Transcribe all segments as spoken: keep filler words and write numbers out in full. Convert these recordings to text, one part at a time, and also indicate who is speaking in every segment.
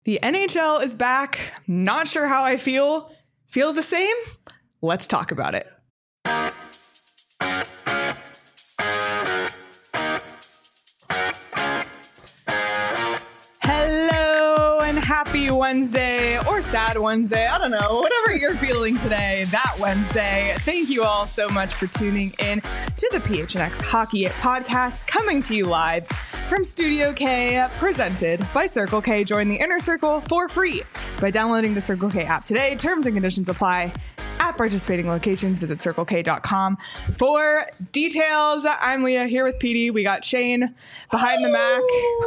Speaker 1: The N H L is back. Not sure how I feel. Feel the same? Let's talk about it. Hello and happy Wednesday or sad Wednesday. I don't know. Whatever you're feeling today, that Wednesday. Thank you all so much for tuning in to the P H N X Hockey Podcast, coming to you live from Studio K, presented by Circle K. Join the Inner Circle for free by downloading the Circle K app today. Terms and conditions apply. At participating locations, visit circle k dot com for details. I'm Leah here with P D. We got Shane behind the Mac.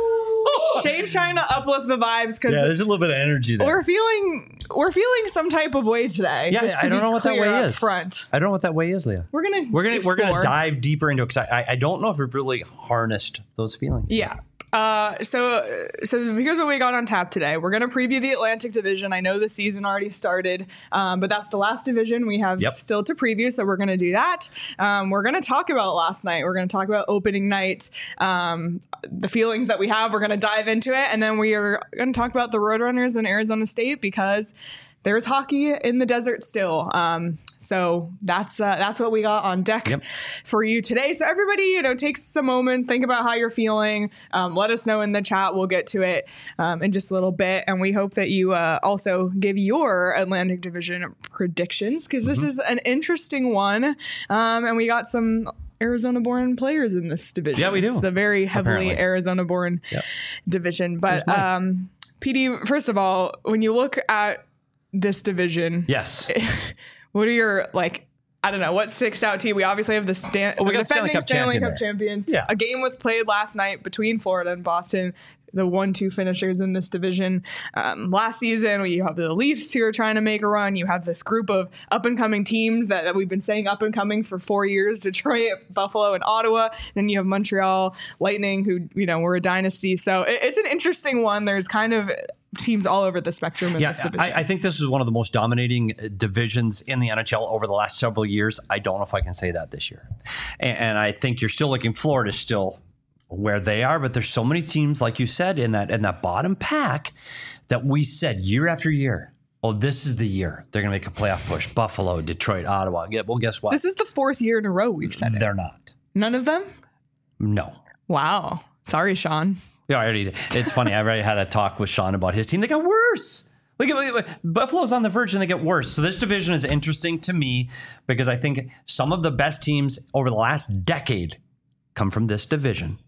Speaker 1: Shane's trying to uplift the vibes because
Speaker 2: yeah, there's a little bit of energy there.
Speaker 1: We're feeling we're feeling some type of way today.
Speaker 2: Yeah,
Speaker 1: just to
Speaker 2: I don't know what that way is.
Speaker 1: Front.
Speaker 2: I don't know what that way is, Leah.
Speaker 1: We're gonna
Speaker 2: we're gonna
Speaker 1: explore.
Speaker 2: we're gonna dive deeper into it because I I don't know if we've really harnessed those feelings.
Speaker 1: Yeah. Uh, so, so here's what we got on tap today. We're going to preview the Atlantic Division. I know the season already started, um, but that's the last division we have
Speaker 2: yep.
Speaker 1: still to preview. So we're going to do that. Um, we're going to talk about last night. We're going to talk about opening night, um, the feelings that we have. We're going to dive into it. And then we are going to talk about the Roadrunners in Arizona State because there's hockey in the desert still. Um, So that's uh, that's what we got on deck
Speaker 2: yep.
Speaker 1: for you today. So everybody, you know, take a moment, think about how you're feeling. Um, let us know in the chat. We'll get to it um, in just a little bit. And we hope that you uh, also give your Atlantic Division predictions because this mm-hmm. is an interesting one. Um, and we got some Arizona-born players in this division.
Speaker 2: Yeah, we do.
Speaker 1: It's the very heavily
Speaker 2: Apparently.
Speaker 1: Arizona-born
Speaker 2: yep.
Speaker 1: division. But um, P D, first of all, when you look at this division,
Speaker 2: yes.
Speaker 1: what are your, like, I don't know, what sticks out to you? We obviously have the, Stan-
Speaker 2: oh, we
Speaker 1: the
Speaker 2: got
Speaker 1: defending
Speaker 2: Stanley Cup,
Speaker 1: Stanley
Speaker 2: champion
Speaker 1: Cup champions.
Speaker 2: Yeah.
Speaker 1: A game was played last night between Florida and Boston, the one two finishers in this division. Um, last season, you have the Leafs who are trying to make a run. You have this group of up-and-coming teams that, that we've been saying up-and-coming for four years, Detroit, Buffalo, and Ottawa. Then you have Montreal Lightning, who, you know, were a dynasty. So it, it's an interesting one. There's kind of teams all over the spectrum in
Speaker 2: yeah,
Speaker 1: this division.
Speaker 2: I, I think this is one of the most dominating divisions in the N H L over the last several years. I don't know if I can say that this year. And, and I think you're still looking, Florida's still where they are, but there's so many teams, like you said, in that in that bottom pack that we said year after year, oh, this is the year they're going to make a playoff push. Buffalo, Detroit, Ottawa. Yeah, well, guess what?
Speaker 1: This is the fourth year in a row we've said it.
Speaker 2: They're not.
Speaker 1: None of them?
Speaker 2: No.
Speaker 1: Wow. Sorry, Sean.
Speaker 2: Yeah, I already. It's funny. I already had a talk with Sean about his team. They got worse. Look at Buffalo's on the verge and they get worse. So this division is interesting to me because I think some of the best teams over the last decade come from this division.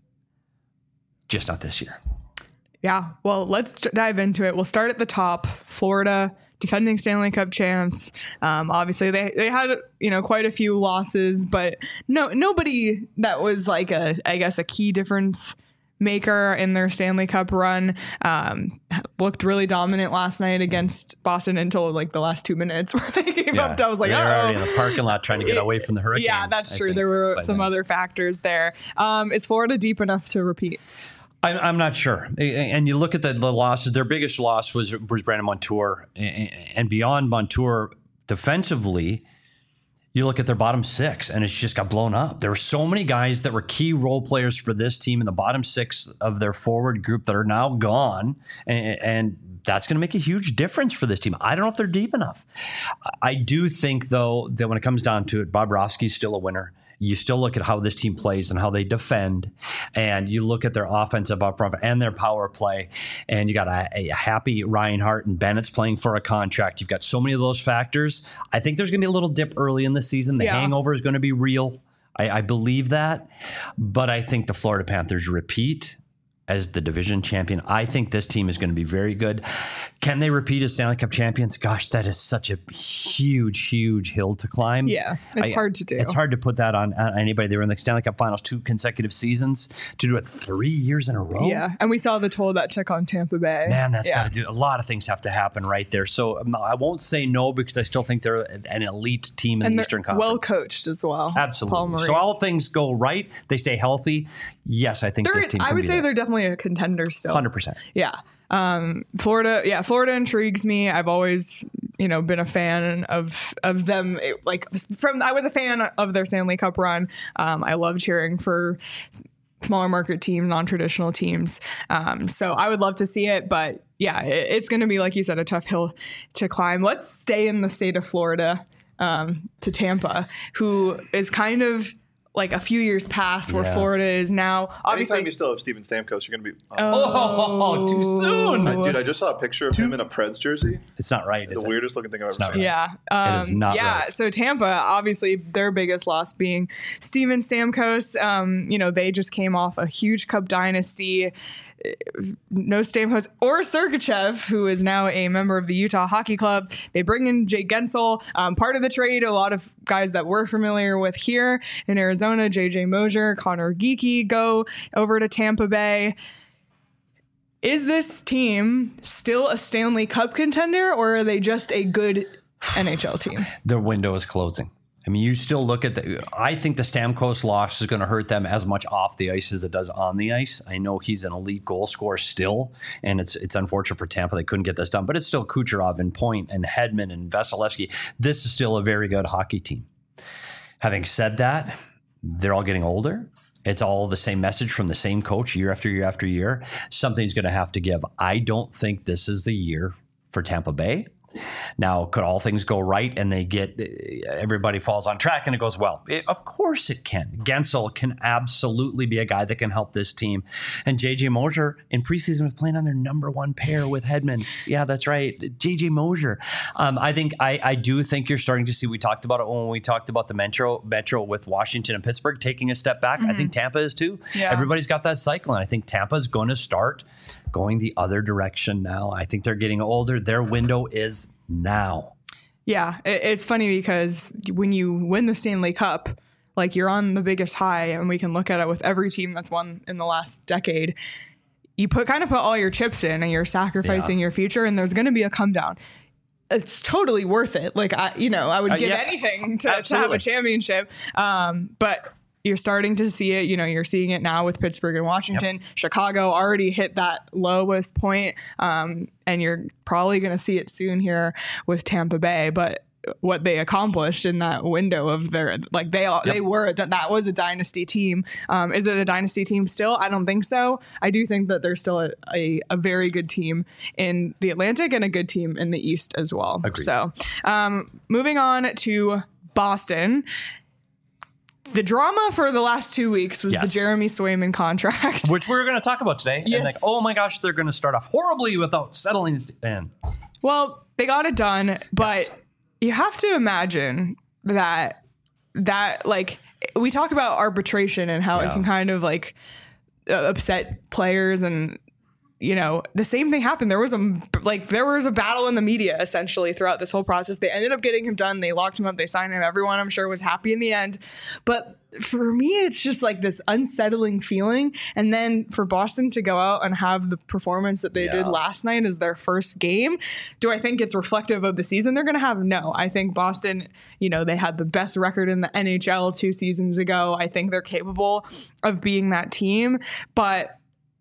Speaker 2: Just not this year.
Speaker 1: Yeah. Well, let's dive into it. We'll start at the top. Florida, defending Stanley Cup champs. Um, obviously, they they had you know quite a few losses, but no nobody that was like a I guess a key difference maker in their Stanley Cup run. Um, looked really dominant last night against Boston until like the last two minutes where they gave
Speaker 2: yeah.
Speaker 1: up. I was like,
Speaker 2: they were
Speaker 1: oh,
Speaker 2: already in the parking lot trying to get away from the hurricane.
Speaker 1: Yeah, that's
Speaker 2: I
Speaker 1: true.
Speaker 2: think,
Speaker 1: There were some
Speaker 2: then.
Speaker 1: other factors there. Um, is Florida deep enough to repeat?
Speaker 2: I'm, I'm not sure. And you look at the, the losses. Their biggest loss was was Brandon Montour, and beyond Montour, defensively, you look at their bottom six, and it's just got blown up. There were so many guys that were key role players for this team in the bottom six of their forward group that are now gone, and, and that's going to make a huge difference for this team. I don't know if they're deep enough. I do think, though, that when it comes down to it, Bobrovsky's still a winner. You still look at how this team plays and how they defend, and you look at their offensive up front and their power play, and you got a, a happy Reinhart and Bennett's playing for a contract. You've got so many of those factors. I think there's going to be a little dip early in the season. The yeah. hangover is going to be real. I, I believe that, but I think the Florida Panthers repeat as the division champion. I think this team is going to be very good. Can they repeat as Stanley Cup champions? Gosh, that is such a huge, huge hill to climb.
Speaker 1: Yeah, it's I, hard to do.
Speaker 2: It's hard to put that on, on anybody. They were in the Stanley Cup finals two consecutive seasons. To do it three years in a row.
Speaker 1: Yeah, and we saw the toll that took on Tampa Bay.
Speaker 2: Man, that's
Speaker 1: yeah.
Speaker 2: got to do. A lot of things have to happen right there. So um, I won't say no because I still think they're an elite team in
Speaker 1: and
Speaker 2: the Eastern Conference.
Speaker 1: Well coached as well.
Speaker 2: Absolutely. So all things go right. They stay healthy. Yes, I think
Speaker 1: they're,
Speaker 2: this team.
Speaker 1: I
Speaker 2: can
Speaker 1: would
Speaker 2: be
Speaker 1: say
Speaker 2: there.
Speaker 1: they're definitely a contender still.
Speaker 2: one hundred percent.
Speaker 1: Yeah. Um, Florida, yeah, Florida intrigues me. I've always, you know, been a fan of of them. It, like from, I was a fan of their Stanley Cup run. Um, I love cheering for smaller market teams, non-traditional teams. Um, so I would love to see it, but yeah, it, it's going to be, like you said, a tough hill to climb. Let's stay in the state of Florida, um, to Tampa, who is kind of like a few years past where
Speaker 2: Yeah.
Speaker 1: Florida is now. Obviously,
Speaker 3: Anytime you still have Steven Stamkos, you're going to be. Uh,
Speaker 2: Oh, too soon.
Speaker 3: I- dude, I just saw a picture of him in a Preds jersey.
Speaker 2: It's not right.
Speaker 3: The
Speaker 2: Is it?
Speaker 3: weirdest looking thing I've ever
Speaker 2: not
Speaker 3: seen.
Speaker 2: right.
Speaker 1: Yeah. Um,
Speaker 2: It is not
Speaker 1: yeah.
Speaker 2: right.
Speaker 1: So Tampa, obviously their biggest loss being Steven Stamkos. Um, you know, they just came off a huge Cup dynasty. No Stamkos or Sergachev, who is now a member of the Utah Hockey Club. They bring in Jake Gensel. Um, part of the trade, a lot of guys that we're familiar with here in Arizona, J J Mosier, Connor Geeky, go over to Tampa Bay. Is this team still a Stanley Cup contender, or are they just a good N H L team?
Speaker 2: Their window is closing. I mean, you still look at the. I think the Stamkos loss is going to hurt them as much off the ice as it does on the ice. I know he's an elite goal scorer still, and it's it's unfortunate for Tampa they couldn't get this done. But it's still Kucherov and Point and Hedman and Vasilevsky. This is still a very good hockey team. Having said that, they're all getting older. It's all the same message from the same coach year after year after year. Something's going to have to give. I don't think this is the year for Tampa Bay. Now, could all things go right and they get everybody falls on track and it goes well? It, of course it can. Gensel can absolutely be a guy that can help this team. And J J Mosier in preseason was playing on their number one pair with Hedman. Yeah, that's right. J J Mosier. Um, I think I, I do think you're starting to see, we talked about it when we talked about the Metro Metro with Washington and Pittsburgh taking a step back. Mm-hmm. I think Tampa is too.
Speaker 1: Yeah.
Speaker 2: Everybody's got that cycle. And I think Tampa is going to start going the other direction now. I think they're getting older. Their window is now.
Speaker 1: Yeah, it, it's funny because when you win the Stanley Cup, like you're on the biggest high, and we can look at it with every team that's won in the last decade. You put kind of put all your chips in, and you're sacrificing
Speaker 2: Yeah.
Speaker 1: your future, and there's going to be a come down. It's totally worth it. Like I, you know, I would
Speaker 2: Uh,
Speaker 1: give
Speaker 2: yeah,
Speaker 1: anything to, to have
Speaker 2: absolutely.
Speaker 1: a championship. Um, but you're starting to see it. You know, you're seeing it now with Pittsburgh and Washington. Yep. Chicago already hit that lowest point, um, and you're probably going to see it soon here with Tampa Bay. But what they accomplished in that window of their, like they all,
Speaker 2: Yep.
Speaker 1: they were, that was a dynasty team. Um, is it a dynasty team still? I don't think so. I do think that there's still a, a, a very good team in the Atlantic and a good team in the East as well.
Speaker 2: Agreed.
Speaker 1: So um, moving on to Boston. The drama for the last two weeks was
Speaker 2: Yes.
Speaker 1: the Jeremy Swayman contract.
Speaker 2: Which we're going to talk about today.
Speaker 1: Yes.
Speaker 2: And like, oh my gosh, they're going to start off horribly without settling in.
Speaker 1: Well, they got it done, but
Speaker 2: Yes.
Speaker 1: you have to imagine that that like we talk about arbitration and how
Speaker 2: Yeah.
Speaker 1: it can kind of like uh, upset players, and you know the same thing happened. There was a like there was a battle in the media essentially throughout this whole process. They ended up getting him done. They locked him up. They signed him. Everyone, I'm sure, was happy in the end. But for me, it's just like this unsettling feeling. And then for Boston to go out and have the performance that they
Speaker 2: Yeah.
Speaker 1: did last night as their first game, do I think it's reflective of the season they're going to have? No. I think Boston, you know, they had the best record in the N H L two seasons ago. I think they're capable of being that team, but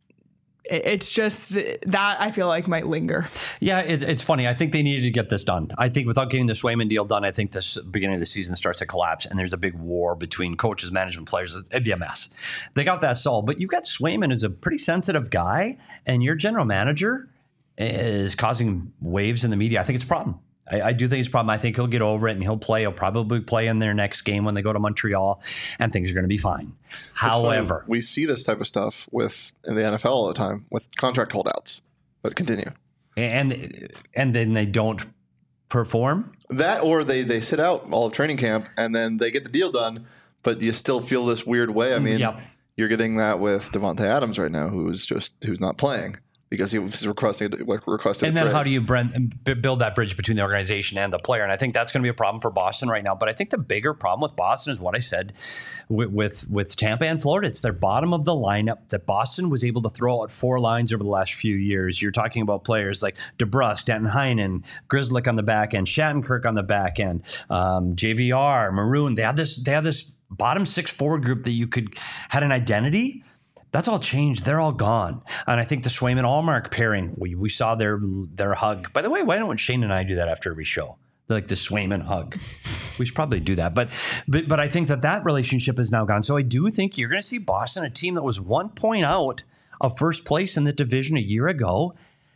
Speaker 1: it's just that I feel like might linger.
Speaker 2: Yeah, it, it's funny. I think they needed to get this done. I think without getting the Swayman deal done, I think this beginning of the season starts to collapse and there's a big war between coaches, management, players. It'd be a mess. They got that solved. But you've got Swayman who's a pretty sensitive guy, and your general manager is causing waves in the media. I think it's a problem. I, I do think it's a problem. I think he'll get over it and he'll play. He'll probably play in their next game when they go to Montreal, and things are going to be fine. However,
Speaker 3: funny. We see this type of stuff with in the N F L all the time with contract holdouts. But continue.
Speaker 2: and and then they don't perform.
Speaker 3: That or they they sit out all of training camp and then they get the deal done, but you still feel this weird way. I mean,
Speaker 2: Yep.
Speaker 3: you're getting that with Devontae Adams right now, who's just who's not playing because he was requesting requested.
Speaker 2: And
Speaker 3: a
Speaker 2: then
Speaker 3: trade.
Speaker 2: how do you brand, b- build that bridge between the organization and the player? And I think that's going to be a problem for Boston right now. But I think the bigger problem with Boston is what I said with, with, with Tampa and Florida. It's their bottom of the lineup that Boston was able to throw out four lines over the last few years. You're talking about players like DeBrusk, Danton Heinen, Grzelcyk on the back end, Shattenkirk on the back end, um, J V R, Maroon. They had this. They had this bottom six forward group that you could had an identity. That's all changed. They're all gone. And I think the Swayman Allmark pairing, we, we saw their their hug. By the way, why don't Shane and I do that after every show? like the Swayman hug. We should probably do that. But, but, but I think that that relationship is now gone. So I do think you're going to see Boston, a team that was one point out of first place in the division a year ago.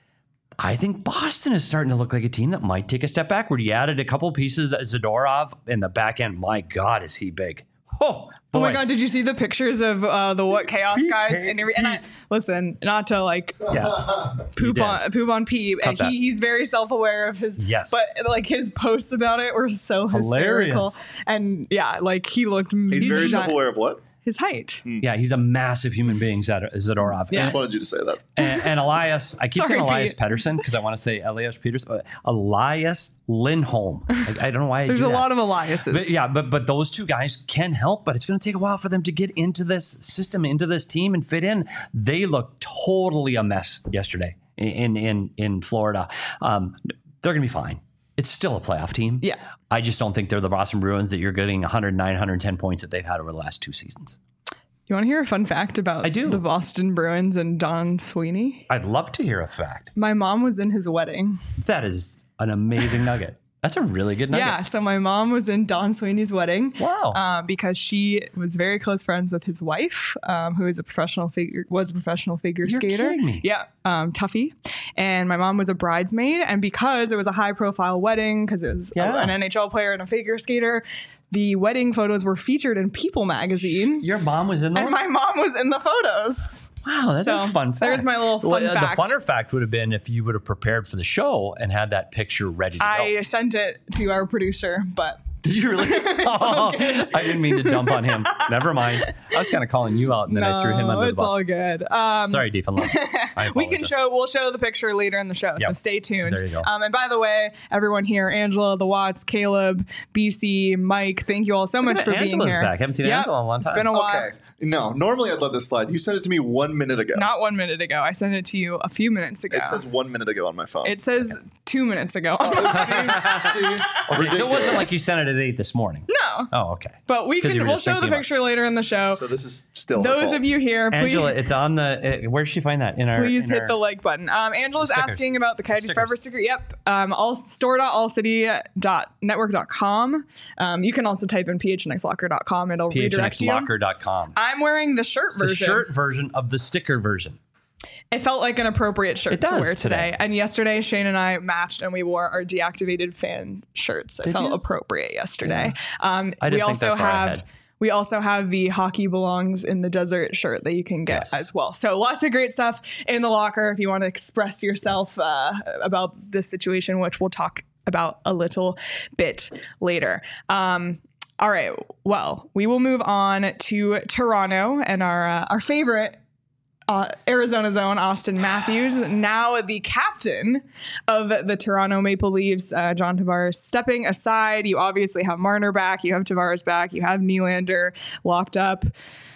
Speaker 2: I think Boston is starting to look like a team that might take a step backward. You added a couple pieces, Zadorov in the back end. My God, is he big. Oh,
Speaker 1: oh my God, did you see the pictures of uh, the What Chaos
Speaker 2: Pete,
Speaker 1: guys?
Speaker 2: Pete,
Speaker 1: and, every, and I, listen, not to like
Speaker 2: yeah.
Speaker 1: poop on poop on Pete.
Speaker 2: Cut that.
Speaker 1: He, he's very self-aware of his,
Speaker 2: Yes.
Speaker 1: but like his posts about it were so hysterical.
Speaker 2: Hilarious.
Speaker 1: And yeah, like he looked.
Speaker 3: He's very self-aware of what?
Speaker 1: His height.
Speaker 2: Yeah, he's a massive human being, Zad- Zadorov.
Speaker 1: Yeah.
Speaker 3: I just wanted you to say that.
Speaker 2: And, and Elias, I keep
Speaker 1: Sorry,
Speaker 2: saying Elias
Speaker 1: Pete.
Speaker 2: Pettersson because I want to say Elias Peters, uh, Elias Lindholm. Like, I don't know why I
Speaker 1: There's
Speaker 2: do
Speaker 1: a
Speaker 2: that.
Speaker 1: lot of Eliases.
Speaker 2: But yeah, but but those two guys can help, but it's going to take a while for them to get into this system, into this team, and fit in. They look totally a mess yesterday in in in Florida. Um, they're going to be fine. It's still a playoff team.
Speaker 1: Yeah.
Speaker 2: I just don't think they're the Boston Bruins that you're getting one hundred nine, one hundred ten points that they've had over the last two seasons.
Speaker 1: You want to hear a fun fact about
Speaker 2: I do.
Speaker 1: the Boston Bruins and Don Sweeney?
Speaker 2: I'd love to hear a fact.
Speaker 1: My mom was in his wedding.
Speaker 2: That is an amazing nugget. That's a really good nugget.
Speaker 1: Yeah, so my mom was in Don Sweeney's wedding.
Speaker 2: Wow.
Speaker 1: Uh, because she was very close friends with his wife, um, who is a professional figure was a professional figure
Speaker 2: You're
Speaker 1: skater.
Speaker 2: kidding me.
Speaker 1: Yeah, um, Tuffy. And my mom was a bridesmaid, and because it was a high profile wedding, because it was a-
Speaker 2: Yeah.
Speaker 1: an N H L player and a figure skater, the wedding photos were featured in People magazine.
Speaker 2: Your mom was in those?
Speaker 1: And my mom was in the photos.
Speaker 2: Wow, that's
Speaker 1: So,
Speaker 2: a fun fact.
Speaker 1: there's my little fun
Speaker 2: Well, uh,
Speaker 1: fact.
Speaker 2: The funner fact would have been if you would have prepared for the show and had that picture ready to
Speaker 1: I
Speaker 2: go.
Speaker 1: sent it to our producer, but
Speaker 2: Did you really? Oh, I didn't mean to dump on him. Never mind. I was kind of calling you out, and then I threw him
Speaker 1: no,
Speaker 2: under the
Speaker 1: it's
Speaker 2: bus.
Speaker 1: all good. Um,
Speaker 2: Sorry, Deep and Love. I
Speaker 1: we can
Speaker 2: apologize.
Speaker 1: show we'll show the picture later in the show, so
Speaker 2: Yep.
Speaker 1: stay tuned.
Speaker 2: There you go.
Speaker 1: Um, and by the way, everyone here, Angela, the Watts, Caleb, B C, Mike, thank you all so much
Speaker 2: at
Speaker 1: for being
Speaker 2: Angela's
Speaker 1: here.
Speaker 2: back. Haven't seen
Speaker 1: Yep.
Speaker 2: Angela in a long
Speaker 1: It's
Speaker 2: time.
Speaker 1: been a while.
Speaker 3: Okay. No, normally I'd let this slide. You sent it to me one minute ago.
Speaker 1: Not one minute ago. I sent it to you a few minutes ago.
Speaker 3: It says one minute ago on my phone.
Speaker 1: It says two minutes ago.
Speaker 3: Oh, see? See?
Speaker 2: Okay, so it wasn't
Speaker 3: Ridiculous.
Speaker 2: like you sent it at eight this morning.
Speaker 1: no,
Speaker 2: Oh, okay.
Speaker 1: but we
Speaker 2: 'Cause you
Speaker 1: can.
Speaker 2: were
Speaker 1: We'll
Speaker 2: just
Speaker 1: show the
Speaker 2: thinking about-
Speaker 1: picture later in the show.
Speaker 3: So this is still her
Speaker 1: Those
Speaker 3: fault.
Speaker 1: of you here, please.
Speaker 2: Angela, it's on the. Uh, where did she find that? In our.
Speaker 1: Please
Speaker 2: in
Speaker 1: hit
Speaker 2: our-
Speaker 1: the like button. Um, Angela's
Speaker 2: Stickers.
Speaker 1: asking about the Coyotes
Speaker 2: Stickers.
Speaker 1: Forever sticker. Yep. Um, all store dot all city dot network dot com. Um, you can also type in p h n x locker dot com. It'll
Speaker 2: p h n
Speaker 1: redirect
Speaker 2: x
Speaker 1: you.
Speaker 2: locker dot com.
Speaker 1: I'm wearing the shirt
Speaker 2: It's the
Speaker 1: version.
Speaker 2: shirt version of the sticker version.
Speaker 1: It felt like an appropriate shirt
Speaker 2: It
Speaker 1: to
Speaker 2: does
Speaker 1: wear today.
Speaker 2: today.
Speaker 1: And yesterday, Shane and I matched and we wore our deactivated fan shirts. It
Speaker 2: Did
Speaker 1: felt
Speaker 2: you?
Speaker 1: appropriate yesterday. Um,
Speaker 2: I
Speaker 1: we
Speaker 2: didn't think
Speaker 1: also
Speaker 2: that far
Speaker 1: have.
Speaker 2: ahead.
Speaker 1: We also have the Hockey Belongs in the Desert shirt that you can get
Speaker 2: Yes.
Speaker 1: as well. So lots of great stuff in the locker if you want to express yourself uh, about this situation, which we'll talk about a little bit later. Um, all right. Well, we will move on to Toronto and our uh, our favorite Uh, Arizona's own Austin Matthews, now the captain of the Toronto Maple Leafs. Uh, John Tavares stepping aside. You obviously have Marner back. You have Tavares back. You have Nylander locked up.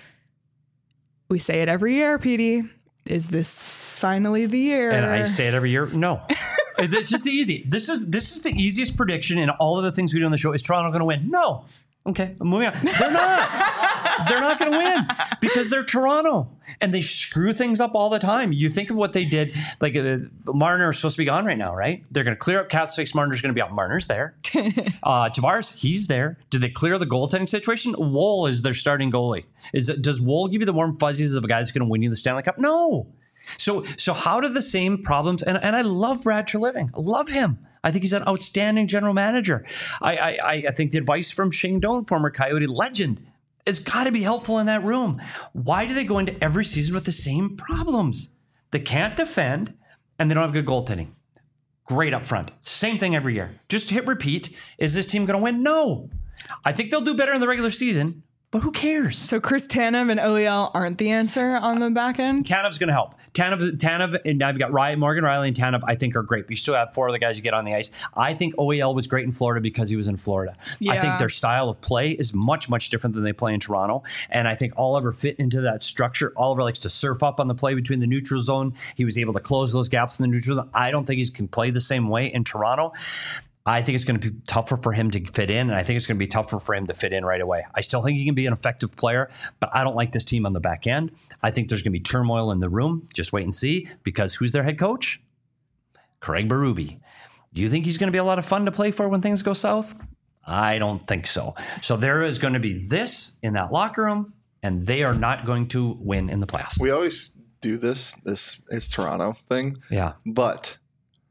Speaker 1: We say it every year, Petey. Is this finally the year?
Speaker 2: And I say it every year. No, it's it's just easy. This is this is the easiest prediction in all of the things we do on the show. Is Toronto going to win? No. Okay, I'm moving on. They're not. They're not going to win because they're Toronto and they screw things up all the time. You think of what they did. Like uh, Marner is supposed to be gone right now, right? They're going to clear up cap space. Marner's going to be out. Marner's there. uh, Tavares, he's there. Did they clear the goaltending situation? Woll is their starting goalie. Is it, does Woll give you the warm fuzzies of a guy that's going to win you the Stanley Cup? No. So so how do the same problems, and, and I love Brad Treliving. I love him. I think he's an outstanding general manager. I I, I think the advice from Shane Doan, former Coyote legend, has got to be helpful in that room. Why do they go into every season with the same problems? They can't defend, and they don't have good goaltending. Great up front. Same thing every year. Just hit repeat. Is this team going to win? No. I think they'll do better in the regular season, but who cares?
Speaker 1: So Chris Tanev and O E L aren't the answer on the back end?
Speaker 2: Tanev's going to help. Tanev, Tanev, and now you've got Ryan, Morgan Riley and Tanev, I think are great. But you still have four other guys you get on the ice. I think O E L was great in Florida because he was in Florida. I
Speaker 1: Yeah.
Speaker 2: think their style of play is much, much different than they play in Toronto. And I think Oliver fit into that structure. Oliver likes to surf up on the play between the neutral zone. He was able to close those gaps in the neutral zone. I don't think he can play the same way in Toronto. I think it's going to be tougher for him to fit in, and I think it's going to be tougher for him to fit in right away. I still think he can be an effective player, but I don't like this team on the back end. I think there's going to be turmoil in the room. Just wait and see, because who's their head coach? Craig Berube. Do you think he's going to be a lot of fun to play for when things go south? I don't think so. So there is going to be this in that locker room, and they are not going to win in the playoffs.
Speaker 3: We always do this. This is Toronto thing.
Speaker 2: Yeah.
Speaker 3: But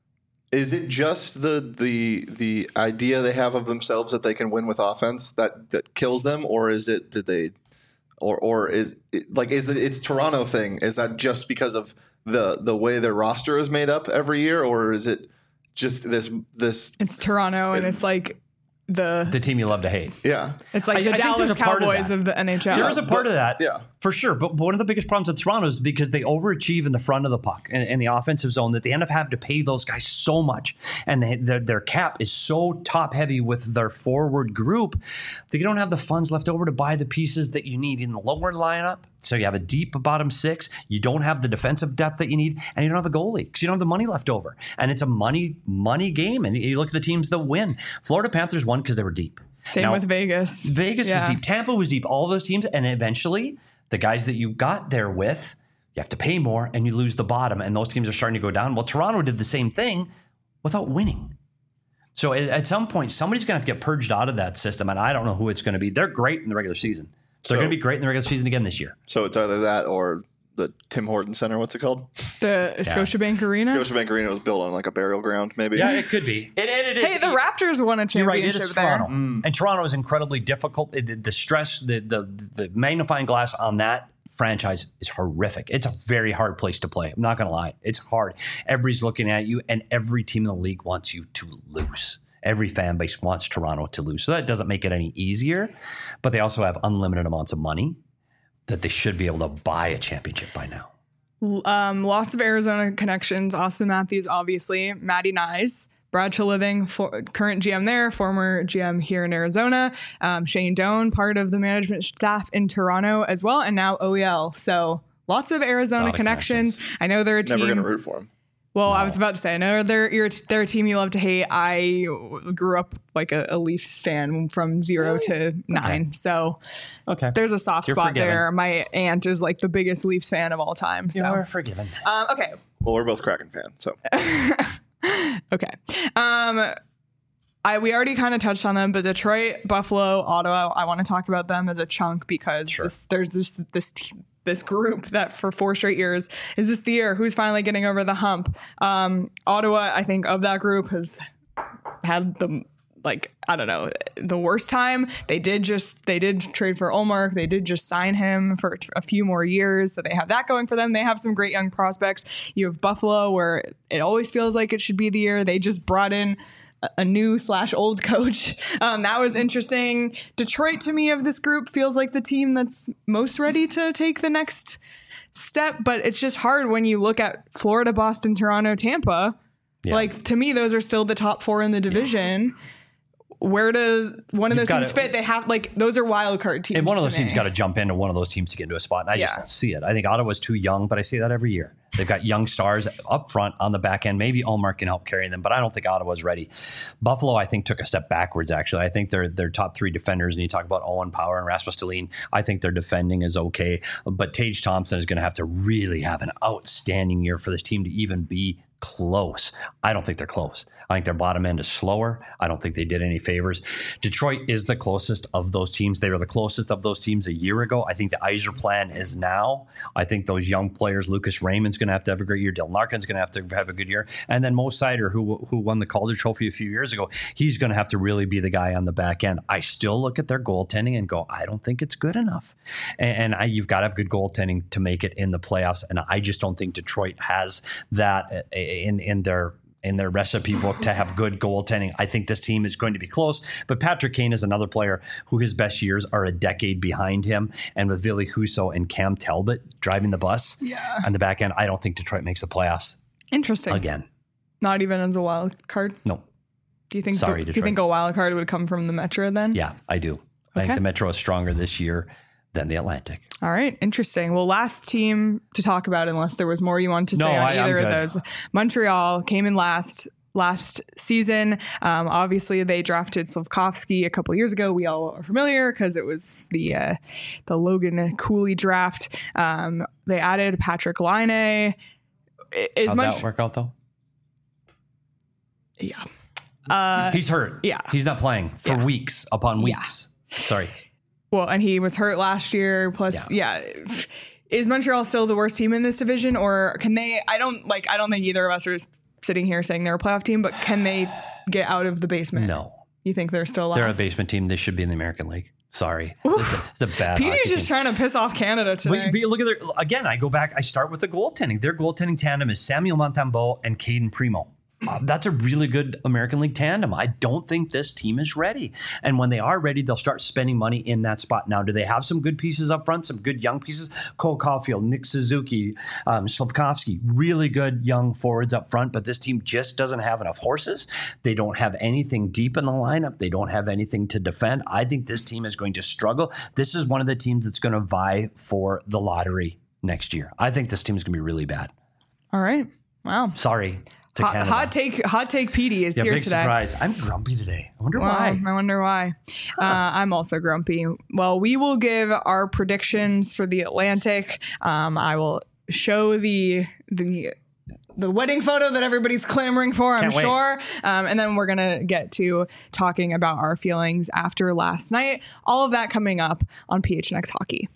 Speaker 3: is it just the the the idea they have of themselves that they can win with offense that, that kills them, or is it did they, or or is it, like is it it's Toronto thing? Is that just because of the the way their roster is made up every year, or is it just this this?
Speaker 1: It's Toronto, and it's like. The
Speaker 2: the team you love to hate.
Speaker 3: Yeah.
Speaker 1: It's like
Speaker 2: I,
Speaker 1: the
Speaker 2: I
Speaker 1: Dallas Cowboys of, of the N H L.
Speaker 2: There is a part
Speaker 3: but,
Speaker 2: of that,
Speaker 3: yeah.
Speaker 2: for sure. But one of the biggest problems with Toronto is because they overachieve in the front of the puck and in the offensive zone that they end up having to pay those guys so much. And they, their, their cap is so top heavy with their forward group that you don't have the funds left over to buy the pieces that you need in the lower lineup. So you have a deep bottom six. You don't have the defensive depth that you need, and you don't have a goalie because you don't have the money left over. And it's a money, money game. And you look at the teams that win. Florida Panthers won because they were deep.
Speaker 1: Same
Speaker 2: now,
Speaker 1: with Vegas.
Speaker 2: Vegas
Speaker 1: yeah.
Speaker 2: was deep. Tampa was deep. All those teams. And eventually, the guys that you got there with, you have to pay more and you lose the bottom. And those teams are starting to go down. Well, Toronto did the same thing without winning. So at, at some point, somebody's going to have to get purged out of that system. And I don't know who it's going to be. They're great in the regular season. So they're going to be great in the regular season again this year.
Speaker 3: So it's either that or the Tim Hortons Center. What's it called?
Speaker 1: The yeah. Scotiabank Arena?
Speaker 3: Scotiabank Arena was built on like a burial ground, maybe.
Speaker 2: Yeah, it could be. It, it, it,
Speaker 1: hey,
Speaker 2: it,
Speaker 1: the
Speaker 2: it,
Speaker 1: Raptors won a championship
Speaker 2: You're right, it is
Speaker 1: there.
Speaker 2: Toronto. Mm. And Toronto is incredibly difficult. The, the stress, the, the the magnifying glass on that franchise is horrific. It's a very hard place to play. I'm not going to lie. It's hard. Everybody's looking at you, and every team in the league wants you to lose. Every fan base wants Toronto to lose. So that doesn't make it any easier. But they also have unlimited amounts of money that they should be able to buy a championship by now.
Speaker 1: Um, lots of Arizona connections. Austin Matthews, obviously. Matty Nyes. Brad Treliving, for, current G M there, former G M here in Arizona. Um, Shane Doan, part of the management staff in Toronto as well. And now O E L. So lots of Arizona
Speaker 2: of
Speaker 1: connections.
Speaker 2: connections.
Speaker 1: I know they're a team.
Speaker 3: Never going to root for them.
Speaker 1: Well,
Speaker 2: No.
Speaker 1: I was about to say, I know they're you're, they're a team you love to hate. I grew up like a, a Leafs fan from zero
Speaker 2: Really?
Speaker 1: to nine.
Speaker 2: Okay.
Speaker 1: So
Speaker 2: Okay.
Speaker 1: there's a soft
Speaker 2: You're
Speaker 1: spot
Speaker 2: forgiven.
Speaker 1: there. My aunt is like the biggest Leafs fan of all time. So
Speaker 2: You're forgiven.
Speaker 1: um, okay.
Speaker 3: Well, we're both Kraken fans, so.
Speaker 1: Okay. Um, I we already kind of touched on them, but Detroit, Buffalo, Ottawa, I want to talk about them as a chunk because
Speaker 2: Sure.
Speaker 1: this, there's this this team. This group that for four straight years is this the year who's finally getting over the hump. Um, Ottawa, I think of that group has had the like I don't know the worst time. They did just they did trade for Ullmark. They did just sign him for a few more years, so they have that going for them. They have some great young prospects. You have Buffalo, where it always feels like it should be the year. They just brought in a new slash old coach. Um, that was interesting. Detroit, to me, of this group, feels like the team that's most ready to take the next step. But it's just hard when you look at Florida, Boston, Toronto, Tampa.
Speaker 2: Yeah.
Speaker 1: Like, to me, those are still the top four in the division. Where do one of
Speaker 2: You've
Speaker 1: those teams
Speaker 2: gotta-
Speaker 1: fit? They have like those are wild card teams.
Speaker 2: And one of those
Speaker 1: to
Speaker 2: teams
Speaker 1: me.
Speaker 2: got to jump into one of those teams to get into a spot. And I just
Speaker 1: Yeah.
Speaker 2: don't see it. I think Ottawa's too young, but I see that every year. They've got young stars up front on the back end. Maybe Ullmark can help carry them, but I don't think Ottawa's ready. Buffalo, I think, took a step backwards, actually. I think they're their top three defenders, and you talk about Owen Power and Rasmus Dahlin. I think their defending is okay, but Tage Thompson is going to have to really have an outstanding year for this team to even be close. I don't think they're close. I think their bottom end is slower. I don't think they did any favors. Detroit is the closest of those teams. They were the closest of those teams a year ago. I think the Yzer plan is now. I think those young players, Lucas Raymond's going to have to have a great year. Dylan Larkin's going to have to have a good year. And then Mo Sider, who who won the Calder Trophy a few years ago, he's going to have to really be the guy on the back end. I still look at their goaltending and go, I don't think it's good enough. And, and I, you've got to have good goaltending to make it in the playoffs. And I just don't think Detroit has that in in their in their recipe book to have good goaltending. I think this team is going to be close, but Patrick Kane is another player who his best years are a decade behind him. And with Ville Husso and Cam Talbot driving the bus
Speaker 1: Yeah.
Speaker 2: on the back end, I don't think Detroit makes the playoffs
Speaker 1: Interesting.
Speaker 2: again.
Speaker 1: Not even as a wild card.
Speaker 2: No.
Speaker 1: Do you think?
Speaker 2: Sorry,
Speaker 1: do you
Speaker 2: Detroit.
Speaker 1: think a wild card would come from the Metro then?
Speaker 2: Yeah, I do. I
Speaker 1: Okay.
Speaker 2: think the Metro is stronger this year than the Atlantic.
Speaker 1: All right, interesting. Well, last team to talk about, unless there was more you wanted to
Speaker 2: No,
Speaker 1: say on
Speaker 2: I- I'm
Speaker 1: either of
Speaker 2: good.
Speaker 1: those. Montreal came in last last season. Um, obviously, they drafted Slafkovsky a couple years ago. We all are familiar because it was the uh, the Logan Cooley draft. Um, they added Patrick Laine. As
Speaker 2: How'd
Speaker 1: much,
Speaker 2: that work out, though?
Speaker 1: yeah. Uh,
Speaker 2: He's hurt.
Speaker 1: yeah.
Speaker 2: He's not playing for
Speaker 1: Yeah.
Speaker 2: weeks upon weeks. Yeah. Sorry.
Speaker 1: Well, and he was hurt last year. Plus, yeah. yeah. Is Montreal still the worst team in this division, or can they? I don't like. I don't think either of us are sitting here saying they're a playoff team, but can they get out of the basement?
Speaker 2: No.
Speaker 1: You think they're still?
Speaker 2: They're a
Speaker 1: last?
Speaker 2: basement team. They should be in the American League. Sorry. It's a, it's a bad
Speaker 1: P D's
Speaker 2: hockey
Speaker 1: just
Speaker 2: team.
Speaker 1: trying to piss off Canada today.
Speaker 2: But, but look at their, again, I go back, I start with the goaltending. Their goaltending tandem is Samuel Montembeault and Caden Primo. Uh, that's a really good American League tandem. I don't think this team is ready. And when they are ready, they'll start spending money in that spot. Now, do they have some good pieces up front, some good young pieces? Cole Caulfield, Nick Suzuki, um, Slavkovsky, really good young forwards up front, but this team just doesn't have enough horses. They don't have anything deep in the lineup. They don't have anything to defend. I think this team is going to struggle. This is one of the teams that's going to vie for the lottery next year. I think this team is going to be really bad.
Speaker 1: All right. Wow.
Speaker 2: Sorry.
Speaker 1: Hot, hot take, hot take. P D is
Speaker 2: yeah,
Speaker 1: here
Speaker 2: big
Speaker 1: today.
Speaker 2: Surprise! I'm grumpy today. I wonder
Speaker 1: well,
Speaker 2: why.
Speaker 1: I wonder why. Uh, I'm also grumpy. Well, we will give our predictions for the Atlantic. Um, I will show the the the wedding photo that everybody's clamoring for. I'm
Speaker 2: Can't wait.
Speaker 1: sure. Um, and then we're gonna get to talking about our feelings after last night. All of that coming up on P H N X Hockey.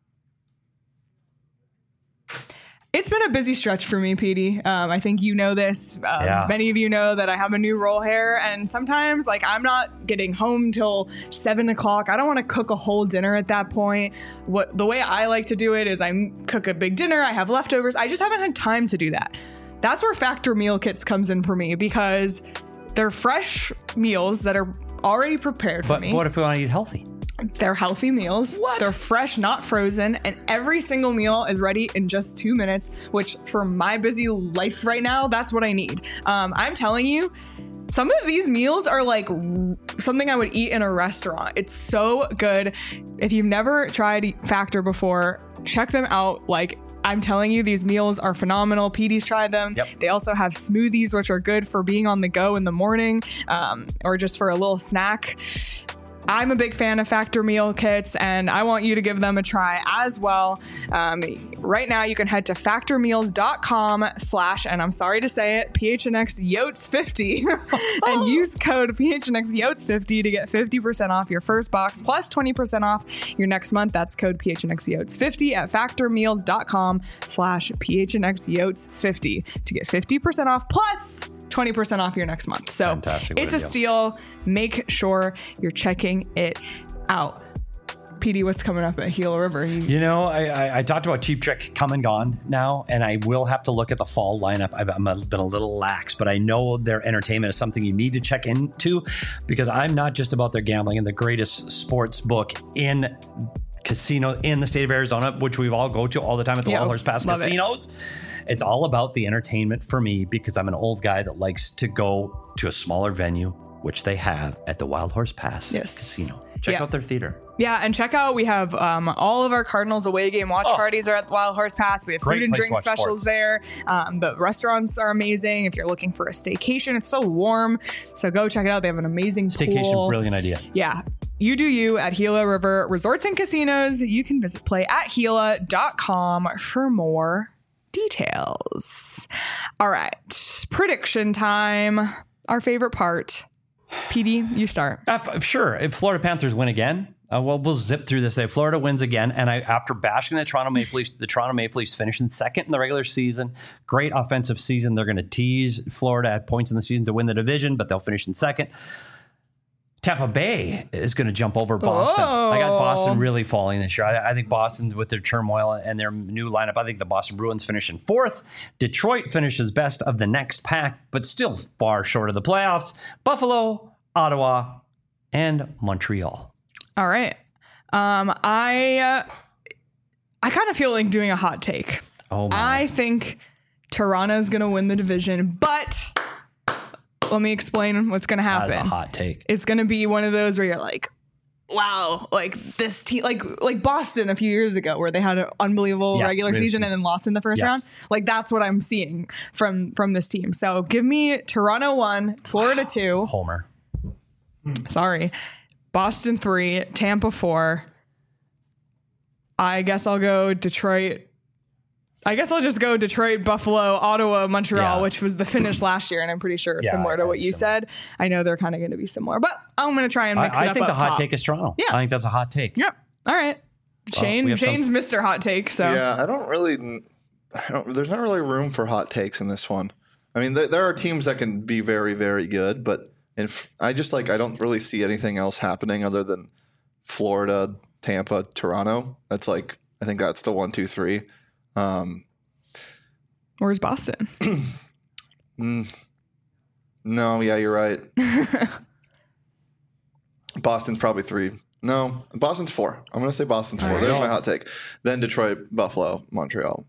Speaker 1: It's been a busy stretch for me, P D. Um, I think you know this. Um,
Speaker 2: Yeah.
Speaker 1: Many of you know that I have a new roll here, and sometimes, like, I'm not getting home till seven o'clock. I don't want to cook a whole dinner at that point. What the way I like to do it is I m- cook a big dinner. I have leftovers. I just haven't had time to do that. That's where Factor Meal Kits comes in for me, because they're fresh meals that are already prepared for
Speaker 2: But
Speaker 1: me.
Speaker 2: what if we want to eat healthy?
Speaker 1: They're healthy meals.
Speaker 2: What?
Speaker 1: They're fresh, not frozen, and every single meal is ready in just two minutes, which for my busy life right now, that's what I need. Um, I'm telling you, some of these meals are like r- something I would eat in a restaurant. It's so good. If you've never tried Factor before, check them out. Like, I'm telling you, these meals are phenomenal. P D's tried them.
Speaker 2: Yep.
Speaker 1: They also have smoothies, which are good for being on the go in the morning, um, or just for a little snack. I'm a big fan of Factor Meal Kits, and I want you to give them a try as well. Um, right now, you can head to factormeals.com slash, and I'm sorry to say it, P H N X Yotes fifty, and use code P H N X Yotes fifty to get fifty percent off your first box, plus twenty percent off your next month. That's code P H N X Yotes fifty at factormeals.com slash P H N X Yotes fifty to get fifty percent off, plus twenty percent off your next month. So
Speaker 2: Fantastic.
Speaker 1: it's
Speaker 2: What
Speaker 1: a
Speaker 2: a deal.
Speaker 1: steal. Make sure you're checking it out. P D, what's coming up at Gila River? You,
Speaker 2: You know, I, I, I talked about Cheap Trick come and gone now, and I will have to look at the fall lineup. I've I'm a, been a little lax, but I know their entertainment is something you need to check into, because I'm not just about their gambling and the greatest sports book in casino in the state of Arizona, which we all go to all the time at the
Speaker 1: Yeah,
Speaker 2: Wild Horse Pass
Speaker 1: love it.
Speaker 2: casinos. It's all about the entertainment for me, because I'm an old guy that likes to go to a smaller venue, which they have at the Wild Horse Pass
Speaker 1: Yes.
Speaker 2: Casino. Check
Speaker 1: Yeah.
Speaker 2: out their theater.
Speaker 1: yeah, and check out, we have um, all of our Cardinals away game watch
Speaker 2: Oh.
Speaker 1: parties are at the Wild Horse Pass. We have
Speaker 2: Great
Speaker 1: food and
Speaker 2: place to
Speaker 1: drink
Speaker 2: watch
Speaker 1: specials
Speaker 2: sports.
Speaker 1: there. Um, the restaurants are amazing. If you're looking for a staycation, it's so warm. So go check it out. They have an amazing
Speaker 2: Staycation,
Speaker 1: pool.
Speaker 2: brilliant idea.
Speaker 1: Yeah. You do you at Gila River Resorts and Casinos. You can visit play at Gila dot com for more details. All right. Prediction time. Our favorite part. P D, you start.
Speaker 2: Uh, sure. If Florida Panthers win again, uh, well, we'll zip through this day. Florida wins again, and I, after bashing the Toronto Maple Leafs, the Toronto Maple Leafs finishing second in the regular season. Great offensive season. They're going to tease Florida at points in the season to win the division, but they'll finish in second. Tampa Bay is going to jump over Boston.
Speaker 1: Oh.
Speaker 2: I got Boston really falling this year. I, I think Boston, with their turmoil and their new lineup, I think the Boston Bruins finish in fourth. Detroit finishes best of the next pack, but still far short of the playoffs. Buffalo, Ottawa, and Montreal.
Speaker 1: All right. Um, I uh, I kind of feel like doing a hot take.
Speaker 2: Oh my.
Speaker 1: I think Toronto's going to win the division, but let me explain what's going to happen.
Speaker 2: That's a hot take.
Speaker 1: It's going to be one of those where you're like, wow, like this team, like like Boston a few years ago, where they had an unbelievable
Speaker 2: Yes,
Speaker 1: regular
Speaker 2: really
Speaker 1: season and then lost in the first
Speaker 2: Yes.
Speaker 1: round. Like, that's what I'm seeing from from this team. So give me Toronto one, Florida two.
Speaker 2: Homer.
Speaker 1: Sorry, Boston three, Tampa four. I guess I'll go Detroit I guess I'll just go Detroit, Buffalo, Ottawa, Montreal,
Speaker 2: Yeah.
Speaker 1: which was the finish last year, and I'm pretty sure
Speaker 2: Yeah,
Speaker 1: similar to what you
Speaker 2: similar.
Speaker 1: said. I know they're kind of going to be similar, but I'm going to try and
Speaker 2: I,
Speaker 1: mix it
Speaker 2: I
Speaker 1: up
Speaker 2: think the
Speaker 1: up
Speaker 2: hot
Speaker 1: top.
Speaker 2: take is Toronto.
Speaker 1: Yeah.
Speaker 2: I think that's a hot take.
Speaker 1: Yep. All right. Shane,
Speaker 2: we have some-
Speaker 1: Shane's Mister Hot Take. So
Speaker 3: Yeah, I don't really. I don't, there's not really room for hot takes in this one. I mean, there, there are teams that can be very, very good, but if I just like I don't really see anything else happening other than Florida, Tampa, Toronto. That's like I think that's the one, two, three. Um,
Speaker 1: where's Boston?
Speaker 3: no, yeah, you're right. Boston's probably three. No, Boston's four. I'm gonna say Boston's four.
Speaker 1: All right.
Speaker 3: There's my hot take. Then Detroit, Buffalo, Montreal,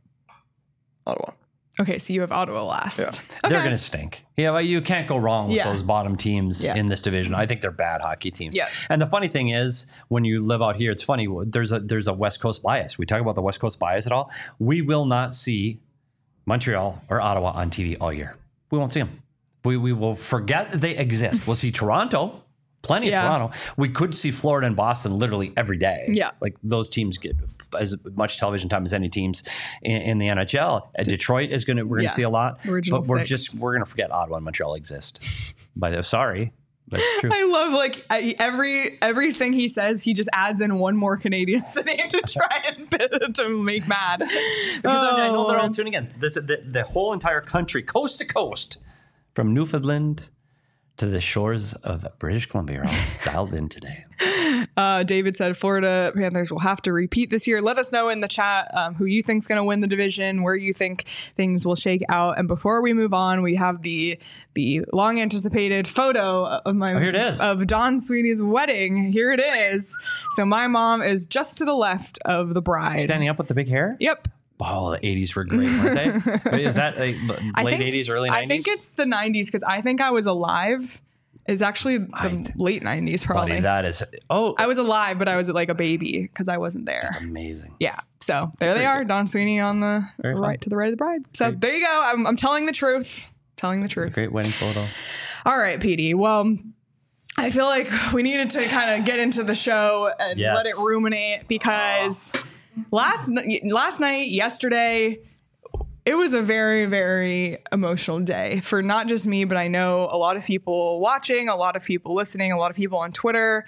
Speaker 3: Ottawa.
Speaker 1: Okay, so you have Ottawa last.
Speaker 3: Yeah.
Speaker 1: Okay.
Speaker 2: They're going to stink. Yeah, well, you can't go wrong with
Speaker 1: Yeah.
Speaker 2: those bottom teams
Speaker 1: Yeah.
Speaker 2: in this division. I think they're bad hockey teams.
Speaker 1: Yeah.
Speaker 2: And the funny thing is, when you live out here, it's funny. There's a there's a West Coast bias. We talk about the West Coast bias at all. We will not see Montreal or Ottawa on T V all year. We won't see them. We we will forget that they exist. We'll see Toronto. Plenty
Speaker 1: Yeah.
Speaker 2: of Toronto. We could see Florida and Boston literally every day.
Speaker 1: Yeah.
Speaker 2: Like those teams get as much television time as any teams in, in the N H L. Uh, Detroit is going to, we're going to
Speaker 1: Yeah.
Speaker 2: see a lot.
Speaker 1: Original
Speaker 2: but we're
Speaker 1: six.
Speaker 2: just, we're going to forget Ottawa and Montreal exist. By the sorry. That's true.
Speaker 1: I love like I, every everything he says, he just adds in one more Canadian city to try and to make mad.
Speaker 2: Because I, I know they're all tuning in. This, the, the whole entire country, coast to coast, from Newfoundland to the shores of British Columbia, are all dialed in today.
Speaker 1: Uh, David said Florida Panthers will have to repeat this year. Let us know in the chat um, who you think's going to win the division, where you think things will shake out. And before we move on, we have the the long anticipated photo of my
Speaker 2: Oh, here it is.
Speaker 1: of Don Sweeney's wedding. Here it is. So my mom is just to the left of the bride.
Speaker 2: Standing up with the big hair?
Speaker 1: Yep.
Speaker 2: Oh, the eighties were great, weren't they? Wait, is that like
Speaker 1: I
Speaker 2: late
Speaker 1: think-
Speaker 2: eighties, early nineties?
Speaker 1: I think it's the nineties because I think I was alive. It's actually the
Speaker 2: I-
Speaker 1: late nineties, probably.
Speaker 2: Buddy, that is, oh,
Speaker 1: I was alive, but I was like a baby because I wasn't there.
Speaker 2: amazing.
Speaker 1: Yeah. So there they
Speaker 2: Very
Speaker 1: are,
Speaker 2: good.
Speaker 1: Don Sweeney on the
Speaker 2: Very fun.
Speaker 1: right to the right of the bride. So
Speaker 2: Great.
Speaker 1: there you go. I'm, I'm telling the truth. Telling the truth.
Speaker 2: Great wedding photo.
Speaker 1: All right, P D. Well, I feel like we needed to kind of get into the show and
Speaker 2: Yes.
Speaker 1: let it ruminate because last n- last night, yesterday, it was a very, very emotional day for not just me, but I know a lot of people watching, a lot of people listening, a lot of people on Twitter.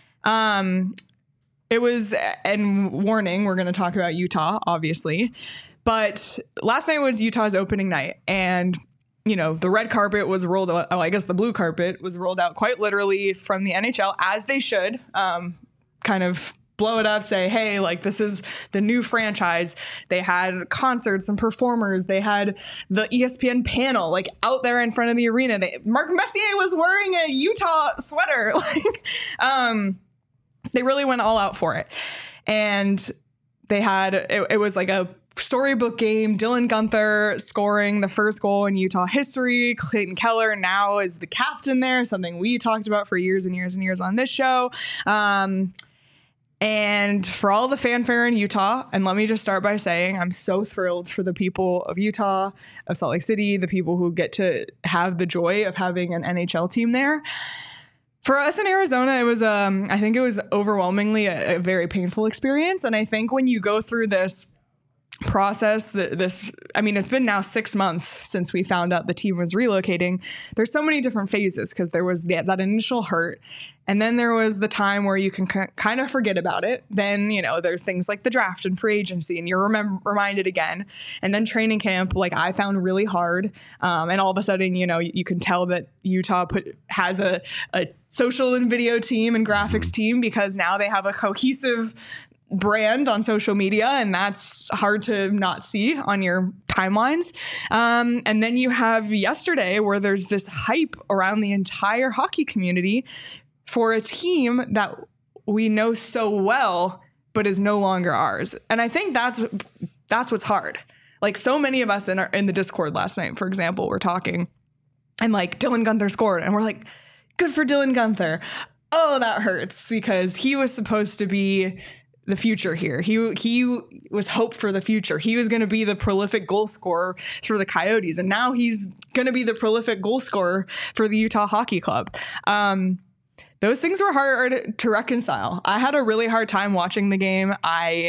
Speaker 1: Um, it was, and warning, we're going to talk about Utah, obviously, but last night was Utah's opening night, and you know, the red carpet was rolled out. Oh, I guess the blue carpet was rolled out quite literally from the N H L, as they should. Um, kind of blow it up, say, hey, like this is the new franchise. They had concerts and performers. They had the E S P N panel like out there in front of the arena. They, Mark Messier was wearing a Utah sweater. Like, um, they really went all out for it. And they had, it, it was like a storybook game. Dylan Guenther scoring the first goal in Utah history. Clayton Keller now is the captain there, something we talked about for years and years and years on this show. Um, and for all the fanfare in Utah, and let me just start by saying I'm so thrilled for the people of Utah, of Salt Lake City, the people who get to have the joy of having an N H L team there. For us in Arizona, it was, um, I think it was overwhelmingly a, a very painful experience. And I think when you go through this process, th- this, I mean, it's been now six months since we found out the team was relocating. There's so many different phases because there was the, that initial hurt. And then there was the time where you can k- kind of forget about it. Then, you know, there's things like the draft and free agency, and you're remem- reminded again. And then training camp, like I found really hard. Um, and all of a sudden, you know, you, you can tell that Utah put has a, a social and video team and graphics team because now they have a cohesive brand on social media, and that's hard to not see on your timelines. Um, and then you have yesterday where there's this hype around the entire hockey community for a team that we know so well, but is no longer ours. And I think that's that's what's hard. Like so many of us in our in the Discord last night, for example, we're talking, and like Dylan Guenther scored, and we're like, good for Dylan Guenther. Oh, that hurts because he was supposed to be the future here. He he was hope for the future. He was going to be the prolific goal scorer for the Coyotes, and now he's going to be the prolific goal scorer for the Utah Hockey Club. Um, those things were hard to reconcile. I had a really hard time watching the game. I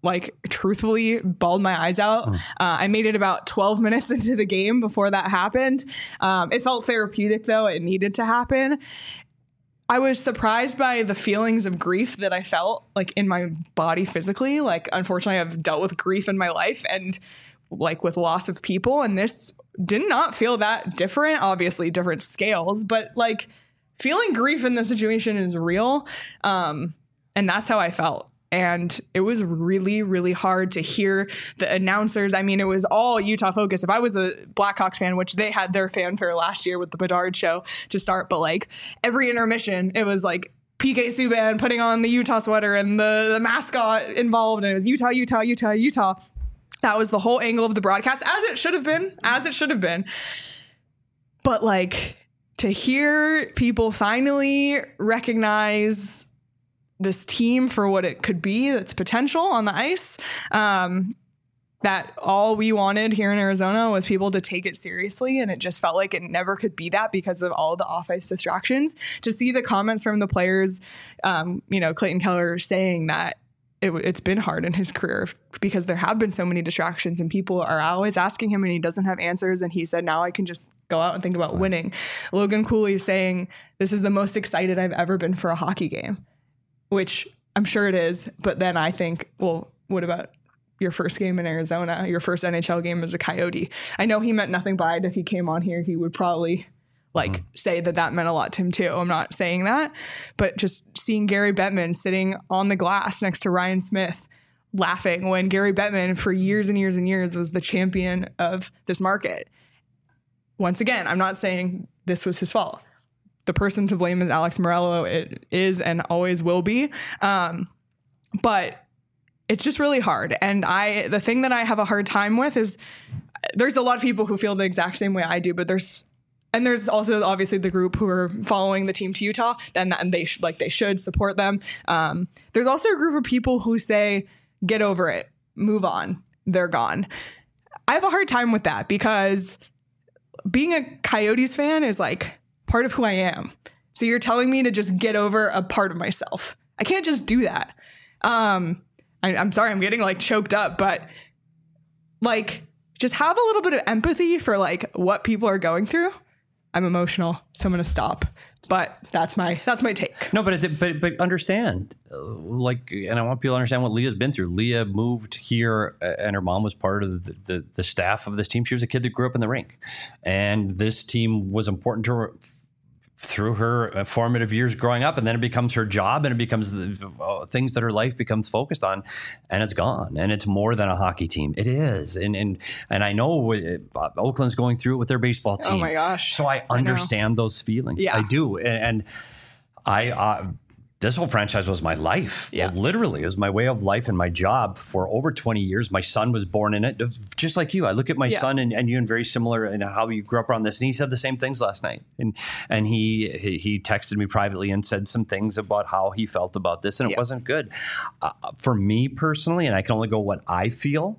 Speaker 1: like truthfully bawled my eyes out. Mm. Uh, I made it about twelve minutes into the game before that happened. Um, it felt therapeutic though. It needed to happen. I was surprised by the feelings of grief that I felt like in my body physically. Like, unfortunately, I've dealt with grief in my life and like with loss of people. And this did not feel that different, obviously different scales, but like feeling grief in this situation is real. Um, and that's how I felt. And it was really, really hard to hear the announcers. I mean, it was all Utah focused. If I was a Blackhawks fan, which they had their fanfare last year with the Bedard show to start, but like every intermission, it was like P K Subban putting on the Utah sweater and the, the mascot involved. And it was Utah, Utah, Utah, Utah. That was the whole angle of the broadcast, as it should have been, as it should have been. But like to hear people finally recognize this team for what it could be, its potential on the ice, um, that all we wanted here in Arizona was people to take it seriously. And it just felt like it never could be that because of all the off-ice distractions. To see the comments from the players, um, you know, Clayton Keller saying that it, it's been hard in his career because there have been so many distractions and people are always asking him and he doesn't have answers. And he said, now I can just go out and think about winning. Logan Cooley saying, this is the most excited I've ever been for a hockey game. Which I'm sure it is. But then I think, well, what about your first game in Arizona, your first N H L game as a Coyote? I know he meant nothing by it. If he came on here, he would probably like mm-hmm. say that that meant a lot to him too. I'm not saying that, but just seeing Gary Bettman sitting on the glass next to Ryan Smith laughing when Gary Bettman for years and years and years was the champion of this market. Once again, I'm not saying this was his fault. The person to blame is Alex Morello. It is and always will be. Um, but it's just really hard. And I, the thing that I have a hard time with is there's a lot of people who feel the exact same way I do, but there's, and there's also obviously the group who are following the team to Utah and, and they sh- like they should support them. Um, there's also a group of people who say, get over it, move on, they're gone. I have a hard time with that because being a Coyotes fan is like part of who I am. So you're telling me to just get over a part of myself. I can't just do that. Um, I, I'm sorry, I'm getting like choked up, but like just have a little bit of empathy for like what people are going through. I'm emotional, so I'm going to stop. But that's my that's my take.
Speaker 2: No, but it, but but understand, uh, like, and I want people to understand what Leah's been through. Leah moved here, uh, and her mom was part of the, the the staff of this team. She was a kid that grew up in the rink, and this team was important to her through her formative years growing up, and then it becomes her job, and it becomes the uh, things that her life becomes focused on, and it's gone, and it's more than a hockey team. It is, and and and I know uh, Oakland's going through it with their baseball team.
Speaker 1: Oh my gosh!
Speaker 2: So I understand I those feelings.
Speaker 1: Yeah.
Speaker 2: I do, and, and I. Uh, This whole franchise was my life.
Speaker 1: Yeah.
Speaker 2: Well, literally, it was my way of life and my job for over twenty years. My son was born in it, just like you. I look at my yeah. son and, and you and very similar in how you grew up around this. And he said the same things last night. And and he he, he texted me privately and said some things about how he felt about this. And it yeah. wasn't good. Uh, for me personally, and I can only go what I feel.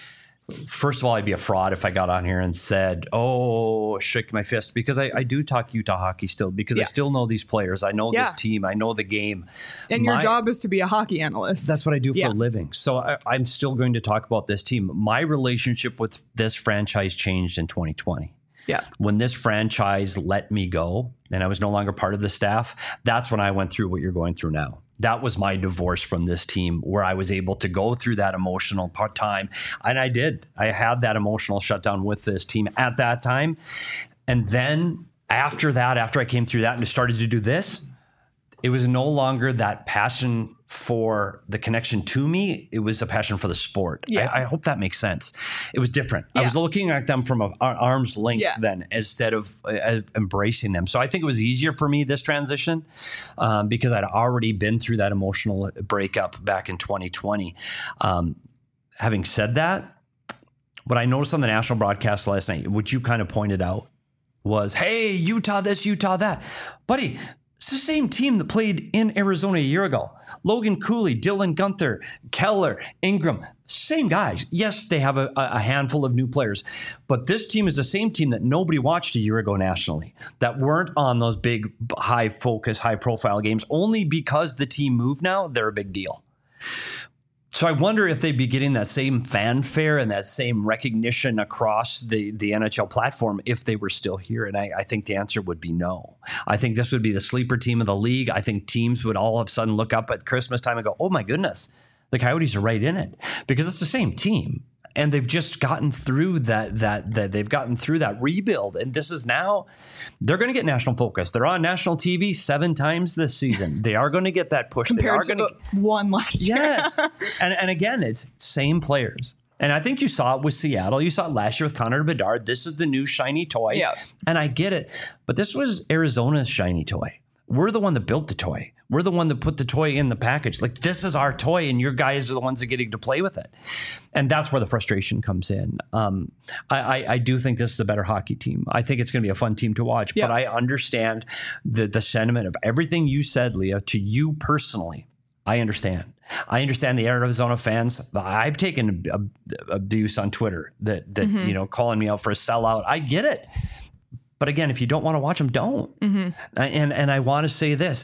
Speaker 2: First of all, I'd be a fraud if I got on here and said, oh, shake my fist, because I, I do talk Utah hockey still, because yeah. I still know these players. I know yeah. this team. I know the game.
Speaker 1: And my, your job is to be a hockey analyst.
Speaker 2: That's what I do
Speaker 1: yeah.
Speaker 2: for a living. So I, I'm still going to talk about this team. My relationship with this franchise changed in twenty twenty.
Speaker 1: Yeah.
Speaker 2: When this franchise let me go and I was no longer part of the staff, that's when I went through what you're going through now. That was my divorce from this team, where I was able to go through that emotional part time. And I did. I had that emotional shutdown with this team at that time. And then after that, after I came through that and started to do this, it was no longer that passion for the connection to me. It was a passion for the sport.
Speaker 1: Yeah.
Speaker 2: I, I hope that makes sense. It was different.
Speaker 1: Yeah.
Speaker 2: I was looking at them from an arm's length
Speaker 1: yeah.
Speaker 2: then, instead of uh, embracing them. So I think it was easier for me, this transition, um, because I'd already been through that emotional breakup back in twenty twenty. Um, having said that, what I noticed on the national broadcast last night, which you kind of pointed out, was, hey, Utah this, Utah that. Buddy, it's the same team that played in Arizona a year ago. Logan Cooley, Dylan Guenther, Keller, Ingram, same guys. Yes, they have a, a handful of new players, but this team is the same team that nobody watched a year ago nationally, that weren't on those big, high focus, high profile games. Only because the team moved now, they're a big deal. So I wonder if they'd be getting that same fanfare and that same recognition across the, the N H L platform if they were still here. And I, I think the answer would be no. I think this would be the sleeper team of the league. I think teams would all of a sudden look up at Christmas time and go, oh my goodness, the Coyotes are right in it, because it's the same team. And they've just gotten through that, that, that they've gotten through that rebuild. And this is now, they're going to get national focus. They're on national T V seven times this season. They are going to get that push.
Speaker 1: Compared
Speaker 2: they are
Speaker 1: to
Speaker 2: going
Speaker 1: the one last year.
Speaker 2: Yes. and, and again, it's same players. And I think you saw it with Seattle. You saw it last year with Connor Bedard. This is the new shiny toy.
Speaker 1: Yeah.
Speaker 2: And I get it. But this was Arizona's shiny toy. We're the one that built the toy. We're the one that put the toy in the package. Like, this is our toy, and your guys are the ones that are getting to play with it. And that's where the frustration comes in. Um, I, I, I do think this is the better hockey team. I think it's going to be a fun team to watch.
Speaker 1: Yeah.
Speaker 2: But I understand the the sentiment of everything you said, Leah, to you personally. I understand. I understand the Arizona fans. I've taken abuse on Twitter that, that mm-hmm. you know, calling me out for a sellout. I get it. But again, if you don't want to watch them, don't. Mm-hmm. And and I want to say this.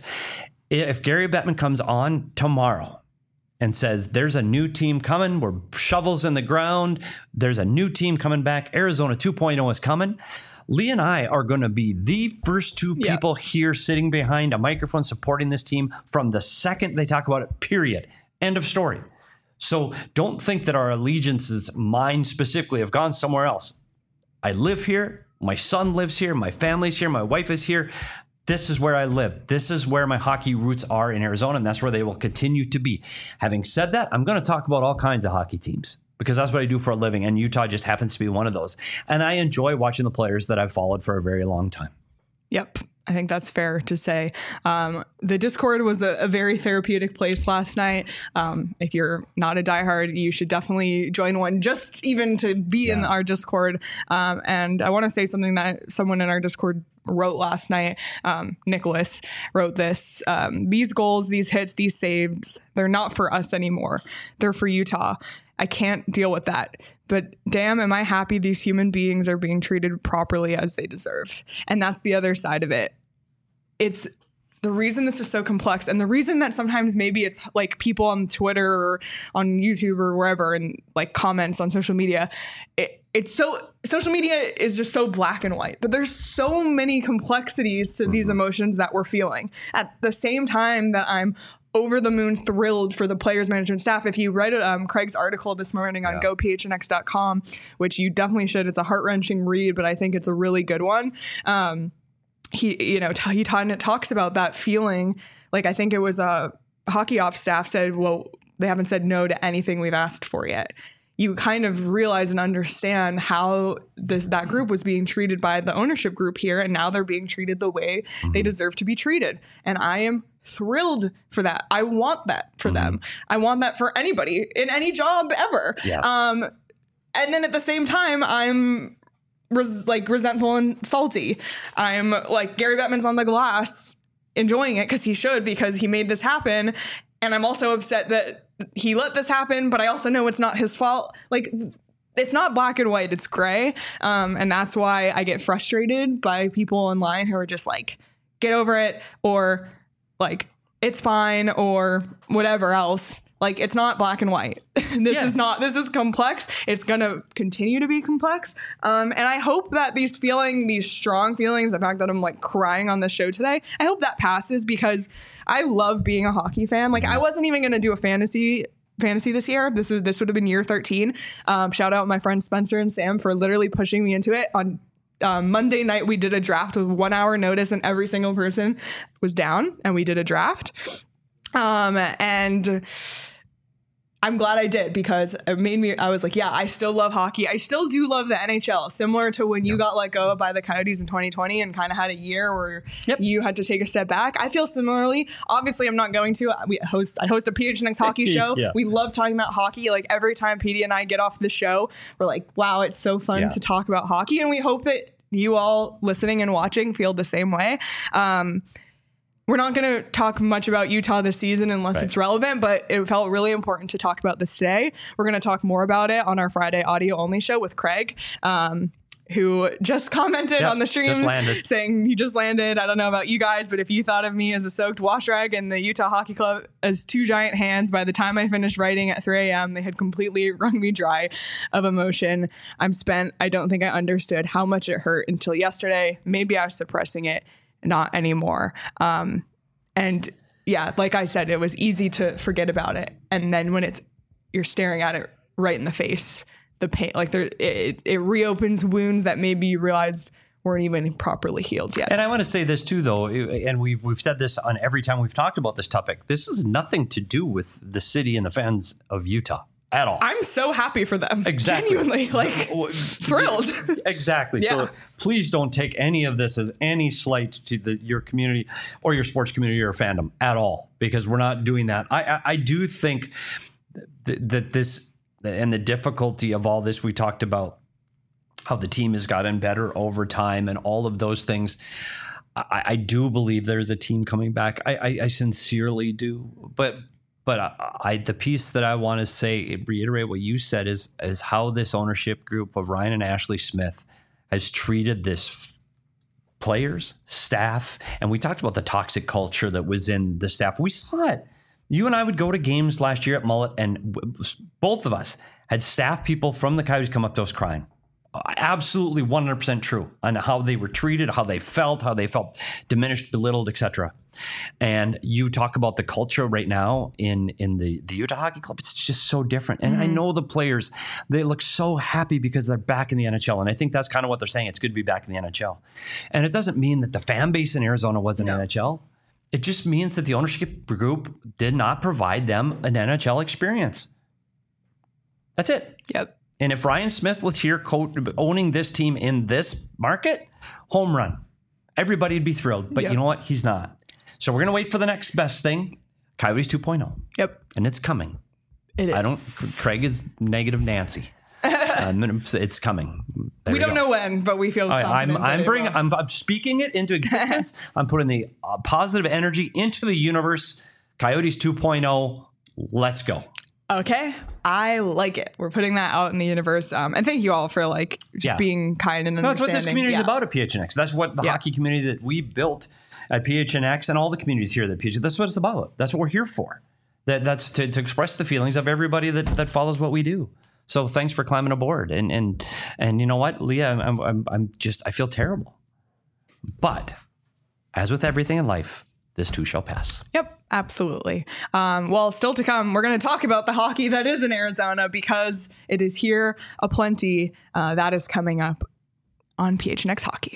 Speaker 2: If Gary Bettman comes on tomorrow and says, there's a new team coming, we're shovels in the ground, there's a new team coming back, Arizona two point oh is coming, Lee and I are going to be the first two people yep. here sitting behind a microphone supporting this team from the second they talk about it, period. End of story. So don't think that our allegiances, mine specifically, have gone somewhere else. I live here. My son lives here. My family's here. My wife is here. This is where I live. This is where my hockey roots are in Arizona, and that's where they will continue to be. Having said that, I'm going to talk about all kinds of hockey teams because that's what I do for a living, and Utah just happens to be one of those. And I enjoy watching the players that I've followed for a very long time.
Speaker 1: Yep. I think that's fair to say. Um, the Discord was a, a very therapeutic place last night. Um, if you're not a diehard, you should definitely join one just even to be yeah. in our Discord. Um, and I want to say something that someone in our Discord wrote last night. Um, Nicholas wrote this. Um, these goals, these hits, these saves, they're not for us anymore. They're for Utah. I can't deal with that. But damn, am I happy these human beings are being treated properly as they deserve. And that's the other side of it. It's the reason this is so complex, and the reason that sometimes maybe it's like people on Twitter or on YouTube or wherever and like comments on social media. It, it's so social media is just so black and white, but there's so many complexities to these emotions that we're feeling at the same time that I'm over the moon thrilled for the players management staff. If you read um, Craig's article this morning on yeah. go p h n x dot com, which you definitely should, it's a heart-wrenching read, but I think it's a really good one. Um, he, you know, t- he t- talks about that feeling. Like, I think it was a hockey ops staff said, well, they haven't said no to anything we've asked for yet. You kind of realize and understand how this that group was being treated by the ownership group here, and now they're being treated the way mm-hmm. they deserve to be treated. And I am thrilled for that. I want that for mm-hmm. them. I want that for anybody in any job ever.
Speaker 2: Yeah.
Speaker 1: Um, and then at the same time, I'm res- like resentful and salty. I'm like, Gary Bettman's on the glass enjoying it because he should, because he made this happen. And I'm also upset that he let this happen, but I also know it's not his fault. Like, it's not black and white, it's gray. Um, and that's why I get frustrated by people online who are just like, get over it, or like, it's fine, or whatever else. Like, it's not black and white. This yeah. is not, this is complex. It's going to continue to be complex. Um, and I hope that these feeling, these strong feelings, the fact that I'm like crying on the show today, I hope that passes, because I love being a hockey fan. Like, I wasn't even going to do a fantasy fantasy this year. This was, this would have been year thirteen. Um, shout out my friends Spencer and Sam for literally pushing me into it. On um, Monday night, we did a draft with one hour notice, and every single person was down, and we did a draft. Um, and I'm glad I did, because it made me, I was like, yeah, I still love hockey. I still do love the N H L, similar to when you yep. got let go by the Coyotes in twenty twenty and kind of had a year where yep. you had to take a step back. I feel similarly. Obviously, I'm not going to. We host, I host a P H N X hockey show. yeah. We love talking about hockey. Like, every time P D and I get off the show, we're like, wow, it's so fun yeah. to talk about hockey. And we hope that you all listening and watching feel the same way. Um, We're not going to talk much about Utah this season unless right. it's relevant, but it felt really important to talk about this today. We're going to talk more about it on our Friday audio only show with Craig, um, who just commented
Speaker 2: Yep,
Speaker 1: on the stream
Speaker 2: just landed.
Speaker 1: saying he just landed. I don't know about you guys, but if you thought of me as a soaked wash rag and the Utah Hockey Club as two giant hands, by the time I finished writing at three a.m., they had completely wrung me dry of emotion. I'm spent. I don't think I understood how much it hurt until yesterday. Maybe I was suppressing it, not anymore. Um, and yeah, like I said, it was easy to forget about it. And then when it's you're staring at it right in the face, the pain, like there, it, it reopens wounds that maybe you realized weren't even properly healed yet.
Speaker 2: And I want to say this too, though, and we've, we've said this on every time we've talked about this topic. This has nothing to do with the city and the fans of Utah at all.
Speaker 1: I'm so happy for them.
Speaker 2: Exactly.
Speaker 1: Genuinely, like, thrilled.
Speaker 2: Exactly.
Speaker 1: Yeah.
Speaker 2: So please don't take any of this as any slight to the, your community or your sports community or fandom at all, because we're not doing that. I, I, I do think th- that this and the difficulty of all this, we talked about how the team has gotten better over time and all of those things. I, I do believe there's a team coming back. I, I, I sincerely do. But but I, I the piece that I want to say, reiterate what you said, is is how this ownership group of Ryan and Ashley Smith has treated this f- players, staff. And we talked about the toxic culture that was in the staff. We saw it. You and I would go to games last year at Mullet, and w- both of us had staff people from the Coyotes come up to us crying. Absolutely one hundred percent true on how they were treated, how they felt, how they felt diminished, belittled, et cetera. And you talk about the culture right now in, in the, the Utah Hockey Club. It's just so different. And mm-hmm. I know the players, they look so happy because they're back in the N H L. And I think that's kind of what they're saying. It's good to be back in the N H L. And it doesn't mean that the fan base in Arizona wasn't no. N H L. It just means that the ownership group did not provide them an N H L experience. That's it.
Speaker 1: Yep.
Speaker 2: And if Ryan Smith was here co- owning this team in this market, home run. Everybody would be thrilled. But yep. you know what? He's not. So we're going to wait for the next best thing, Coyotes two point oh.
Speaker 1: Yep.
Speaker 2: And it's coming.
Speaker 1: It is.
Speaker 2: I don't, Craig is negative Nancy. um, it's coming. There
Speaker 1: we don't go. know when, but we feel confident.
Speaker 2: I'm, I'm bringing, I'm, I'm speaking it into existence. I'm putting the uh, positive energy into the universe. Coyotes two point oh. Let's go.
Speaker 1: Okay. I like it. We're putting that out in the universe. Um, and thank you all for like just
Speaker 2: yeah.
Speaker 1: being kind and understanding.
Speaker 2: No, that's what this community is
Speaker 1: yeah.
Speaker 2: about at P H N X. That's what the yeah. hockey community that we built at P H N X and all the communities here at P H N X, that's what it's about. That's what we're here for. That That's to, to express the feelings of everybody that, that follows what we do. So thanks for climbing aboard. And and and you know what, Leah, I'm I'm I'm just I feel terrible. But as with everything in life, this too shall pass.
Speaker 1: Yep, absolutely. Um, well, still to come, we're going to talk about the hockey that is in Arizona because it is here aplenty. Uh, that is coming up on P H N X Hockey.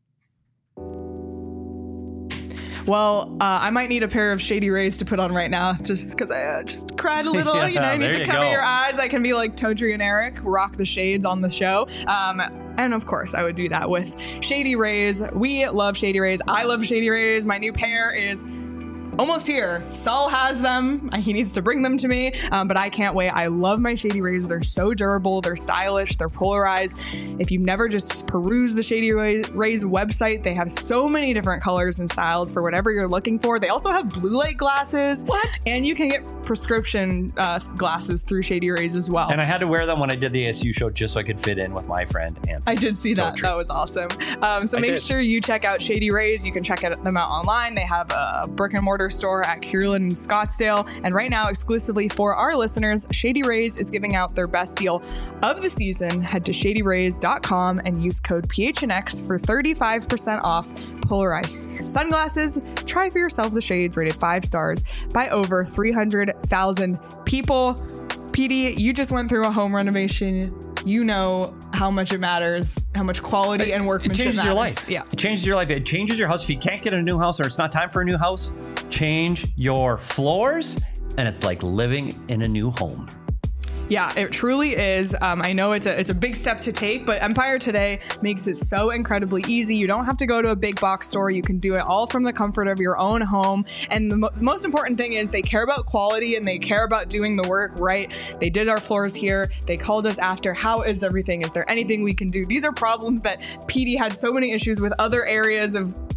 Speaker 1: Well, uh, I might need a pair of Shady Rays to put on right now just because I uh, just cried a little. yeah, you know, I need to cover go. your eyes. I can be like Todri and Eric, rock the shades on the show. Um, and of course, I would do that with Shady Rays. We love Shady Rays. I love Shady Rays. My new pair is almost here. Saul has them. He needs to bring them to me, um, but I can't wait. I love my Shady Rays. They're so durable. They're stylish. They're polarized. If you've never just perused the Shady Rays website, they have so many different colors and styles for whatever you're looking for. They also have blue light glasses.
Speaker 2: What?
Speaker 1: And you can get prescription uh, glasses through Shady Rays as well.
Speaker 2: And I had to wear them when I did the A S U show just so I could fit in with my friend Anthony.
Speaker 1: I did see that. That was awesome. Um, so I make did. sure you check out Shady Rays. You can check them out online. They have a brick and mortar store at Kierland and Scottsdale. And right now, exclusively for our listeners, Shady Rays is giving out their best deal of the season. Head to shady rays dot com and use code P H N X for thirty-five percent off polarized sunglasses. Try for yourself the shades rated five stars by over three hundred thousand people. P D, you just went through a home renovation. You know how much it matters, how much quality and workmanship
Speaker 2: It changes
Speaker 1: matters.
Speaker 2: your life.
Speaker 1: Yeah.
Speaker 2: It changes your life. It changes your house. If you can't get a new house or it's not time for a new house, change your floors and it's like living in a new home.
Speaker 1: Yeah, it truly is. Um, I know it's a it's a big step to take, but Empire Today makes it so incredibly easy. You don't have to go to a big box store. You can do it all from the comfort of your own home. And the mo- most important thing is they care about quality and they care about doing the work right. They did our floors here. They called us after. How is everything? Is there anything we can do? These are problems that P D had so many issues with other areas of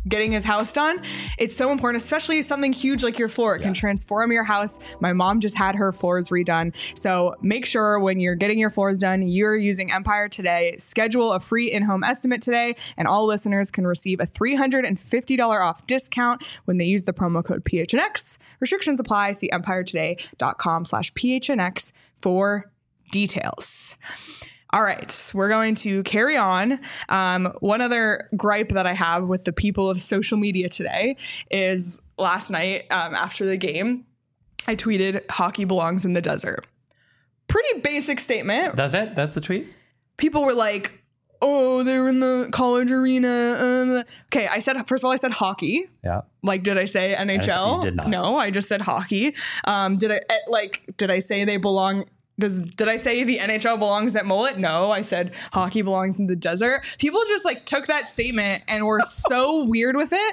Speaker 1: getting his house done, it's so important, especially something huge like your floor. It yes. can transform your house. My mom just had her floors redone. So make sure when you're getting your floors done, you're using Empire today. Schedule a free in-home estimate today, and all listeners can receive a three hundred fifty dollars off discount when they use the promo code P H N X. Restrictions apply. See empiretoday.com slash PHNX for details. All right, we're going to carry on. Um, one other gripe that I have with the people of social media today is last night um, after the game, I tweeted, hockey belongs in the desert. Pretty basic statement.
Speaker 2: That's it? That's the tweet?
Speaker 1: People were like, oh, they were in the college arena. Um. Okay, I said, first of all, I said hockey.
Speaker 2: Yeah.
Speaker 1: Like, did I say N H L?
Speaker 2: You did not.
Speaker 1: No, I just said hockey. Um, did I, like, did I say they belong... Does did I say the N H L belongs at Mullet? No, I said hockey belongs in the desert. People just like took that statement and were so weird with it.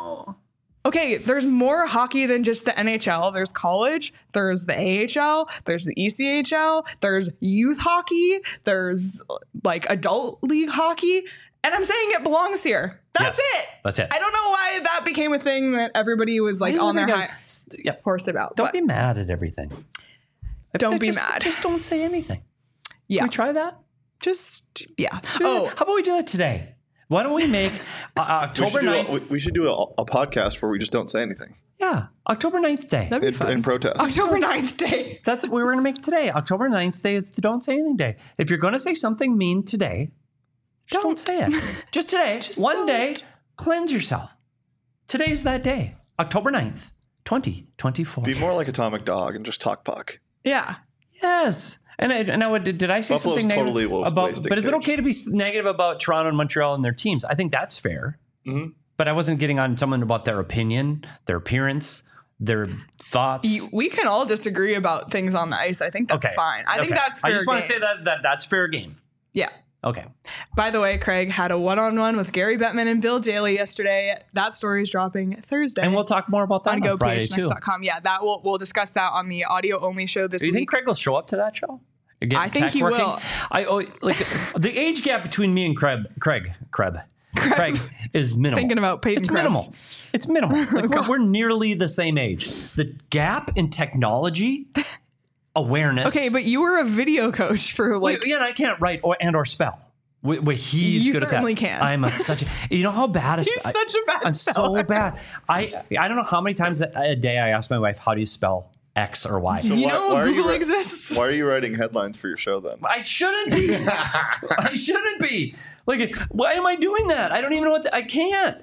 Speaker 1: Okay, there's more hockey than just the N H L. There's college, there's the A H L, there's the E C H L, there's youth hockey, there's like adult league hockey. And I'm saying it belongs here. That's
Speaker 2: yes,
Speaker 1: it.
Speaker 2: That's it.
Speaker 1: I don't know why that became a thing that everybody was like on their high
Speaker 2: yeah.
Speaker 1: horse about.
Speaker 2: Don't
Speaker 1: but.
Speaker 2: be mad at everything.
Speaker 1: Don't be
Speaker 2: just,
Speaker 1: mad.
Speaker 2: Just don't say anything.
Speaker 1: Yeah.
Speaker 2: Can we try that?
Speaker 1: Just, yeah.
Speaker 2: Oh, how about we do that today? Why don't we make uh, October ninth?
Speaker 3: A, we should do a, a podcast where we just don't say anything.
Speaker 2: Yeah. October ninth day.
Speaker 1: That'd be
Speaker 3: in,
Speaker 1: fun.
Speaker 3: in protest.
Speaker 1: October ninth day.
Speaker 2: That's what we were going to make today. October ninth day is the Don't Say Anything Day. If you're going to say something mean today, don't, don't say it. Just today, just one don't. day, cleanse yourself. Today's that day. October ninth, twenty twenty-four.
Speaker 3: Be more like Atomic Dog and just talk puck.
Speaker 1: Yeah.
Speaker 2: Yes. And I, and I, did I say
Speaker 3: Buffalo's
Speaker 2: something
Speaker 3: totally
Speaker 2: negative about? But is it okay to be negative about Toronto and Montreal and their teams? I think that's fair.
Speaker 3: Mm-hmm.
Speaker 2: But I wasn't getting on someone about their opinion, their appearance, their thoughts.
Speaker 1: We can all disagree about things on the ice. I think that's
Speaker 2: okay.
Speaker 1: fine. I okay. think that's fair.
Speaker 2: I just
Speaker 1: game.
Speaker 2: want to say that, that that's fair game.
Speaker 1: Yeah.
Speaker 2: Okay.
Speaker 1: By the way, Craig had a one-on-one with Gary Bettman and Bill Daly yesterday. That story is dropping Thursday.
Speaker 2: And we'll talk more about that on, on Friday,
Speaker 1: P H N X dot com. Yeah, that will we'll discuss that on the audio-only show this week.
Speaker 2: Do you week. think Craig will show up to that show?
Speaker 1: I think he
Speaker 2: working?
Speaker 1: will.
Speaker 2: I oh, like the age gap between me and Craig, Craig, Craig, Craig is minimal.
Speaker 1: Thinking about Peyton
Speaker 2: It's
Speaker 1: Krebs.
Speaker 2: minimal. It's minimal. Like we're, we're nearly the same age. The gap in technology, awareness.
Speaker 1: Okay, but you were a video coach for like.
Speaker 2: Wait, yeah, and I can't write or and or spell. Wait, wait he's
Speaker 1: you
Speaker 2: good at that.
Speaker 1: You certainly can't.
Speaker 2: I'm a, such a. You know how bad.
Speaker 1: He's
Speaker 2: I,
Speaker 1: such a bad.
Speaker 2: I'm
Speaker 1: speller.
Speaker 2: so bad. I I don't know how many times a, a day I ask my wife, how do you spell X or Y?
Speaker 3: So
Speaker 1: you
Speaker 3: why,
Speaker 1: know
Speaker 3: why
Speaker 1: Google
Speaker 3: are you
Speaker 1: exists.
Speaker 3: Why are you writing headlines for your show then?
Speaker 2: I shouldn't be. I shouldn't be. Like, why am I doing that? I don't even know what the, I can't.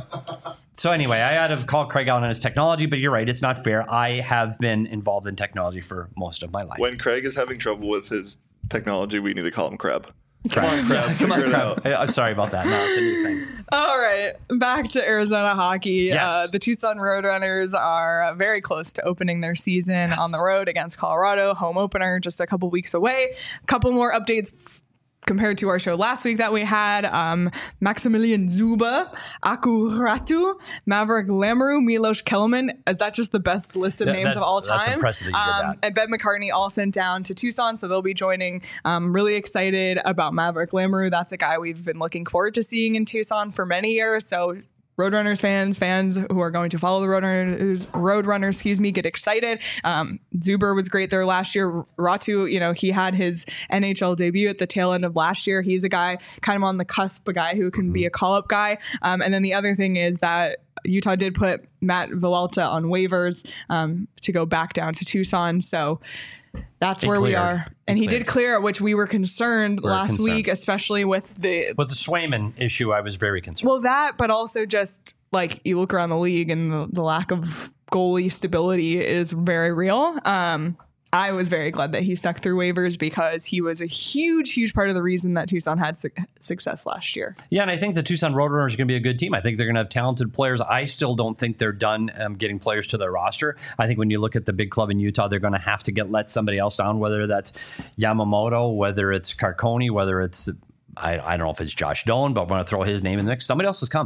Speaker 2: So anyway, I had to call Craig out on his technology, but you're right. It's not fair. I have been involved in technology for most of my life.
Speaker 3: When Craig is having trouble with his technology, we need to call him Crab. Come on, Crab.
Speaker 2: Yeah, come on, Crab. I'm sorry about that. No, it's a new thing.
Speaker 1: All right. Back to Arizona hockey.
Speaker 2: Yes.
Speaker 1: Uh, the Tucson Roadrunners are very close to opening their season yes. on the road against Colorado. Home opener just a couple weeks away. A couple more updates f- compared to our show last week that we had. Um, Maximilian Zuba, Aku Ratu, Maverick Lamoureux, Milos Kelman. Is that just the best list of
Speaker 2: That-
Speaker 1: names of
Speaker 2: that's-
Speaker 1: all time?
Speaker 2: that's impressive that you did
Speaker 1: Um,
Speaker 2: that.
Speaker 1: and Ben McCartney all sent down to Tucson, so they'll be joining. Um, really excited about Maverick Lamoureux. That's a guy we've been looking forward to seeing in Tucson for many years. So Roadrunners fans, fans who are going to follow the Roadrunners, Roadrunners, excuse me, get excited. Um, Zuber was great there last year. Ratu, you know, he had his N H L debut at the tail end of last year. He's a guy kind of on the cusp, a guy who can be a call-up guy. Um, and then the other thing is that Utah did put Matt Villalta on waivers um, to go back down to Tucson. So that's
Speaker 2: It
Speaker 1: where we
Speaker 2: cleared.
Speaker 1: are. And
Speaker 2: It
Speaker 1: he
Speaker 2: cleared.
Speaker 1: did clear, which we were concerned
Speaker 2: We're
Speaker 1: last
Speaker 2: concerned.
Speaker 1: week, especially with the
Speaker 2: With the Swayman issue, I was very concerned.
Speaker 1: well, that, but also just like you look around the league and the, the lack of goalie stability is very real. Um, I was very glad that he stuck through waivers because he was a huge, huge part of the reason that Tucson had su- success last year.
Speaker 2: Yeah, and I think the Tucson Roadrunners are going to be a good team. I think they're going to have talented players. I still don't think they're done um, getting players to their roster. I think when you look at the big club in Utah, they're going to have to get let somebody else down, whether that's Yamamoto, whether it's Carconi, whether it's, I, I don't know if it's Josh Doan, but I'm going to throw his name in the mix. Somebody else is coming.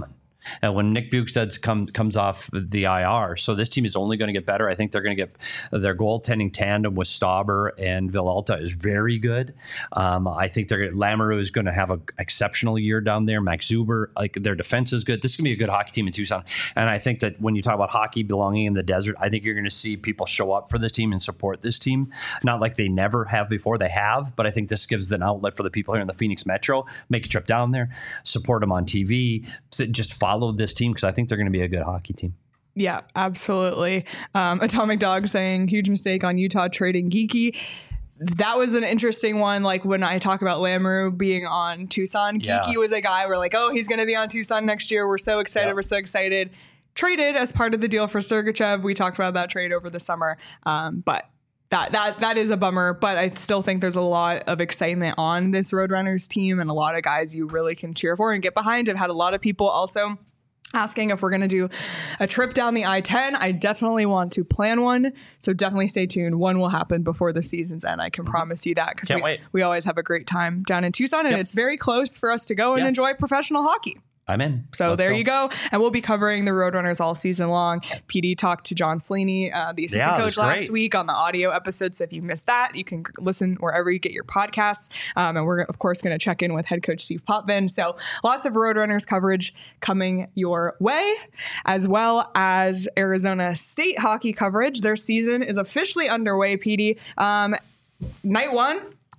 Speaker 2: And when Nick Bukestad come, comes off the I R, so this team is only going to get better. I think they're going to get their goaltending tandem with Stauber and Villalta is very good. Um, I think they're Lamoureux is going to have an exceptional year down there. Max Zuber, like their defense is good. This is going to be a good hockey team in Tucson. And I think that when you talk about hockey belonging in the desert, I think you're going to see people show up for this team and support this team. Not like they never have before, they have, but I think this gives an outlet for the people here in the Phoenix Metro. Make a trip down there, support them on T V, just follow this team because I think they're going to be a good hockey team.
Speaker 1: Yeah, absolutely. Um, Atomic Dog saying huge mistake on Utah trading Geeky. That was an interesting one. Like when I talk about Lamoureux being on Tucson,
Speaker 2: yeah.
Speaker 1: Geeky was a guy we're like, oh, he's going to be on Tucson next year. We're so excited.
Speaker 2: Yep.
Speaker 1: We're so excited. Traded as part of the deal for Sergachev. We talked about that trade over the summer. Um, but That that that is a bummer, but I still think there's a lot of excitement on this Roadrunners team and a lot of guys you really can cheer for and get behind. I've had a lot of people also asking if we're going to do a trip down the I ten. I definitely want to plan one, so definitely stay tuned. One will happen before the season's end. I can promise you that because
Speaker 2: Can't
Speaker 1: we,
Speaker 2: wait.
Speaker 1: we always have a great time down in Tucson, and
Speaker 2: Yep.
Speaker 1: it's very close for us to go and
Speaker 2: Yes.
Speaker 1: enjoy professional hockey.
Speaker 2: I'm in.
Speaker 1: So
Speaker 2: Let's
Speaker 1: there
Speaker 2: go.
Speaker 1: you go. And we'll be covering the Roadrunners all season long. P D talked to John Slaney, uh, the assistant
Speaker 2: Yeah, it
Speaker 1: coach
Speaker 2: was
Speaker 1: last
Speaker 2: great.
Speaker 1: week on the audio episode. So if you missed that, you can listen wherever you get your podcasts. Um, and we're, of course, going to check in with head coach Steve Potvin. So lots of Roadrunners coverage coming your way, as well as Arizona State hockey coverage. Their season is officially underway, P D. Um, night one.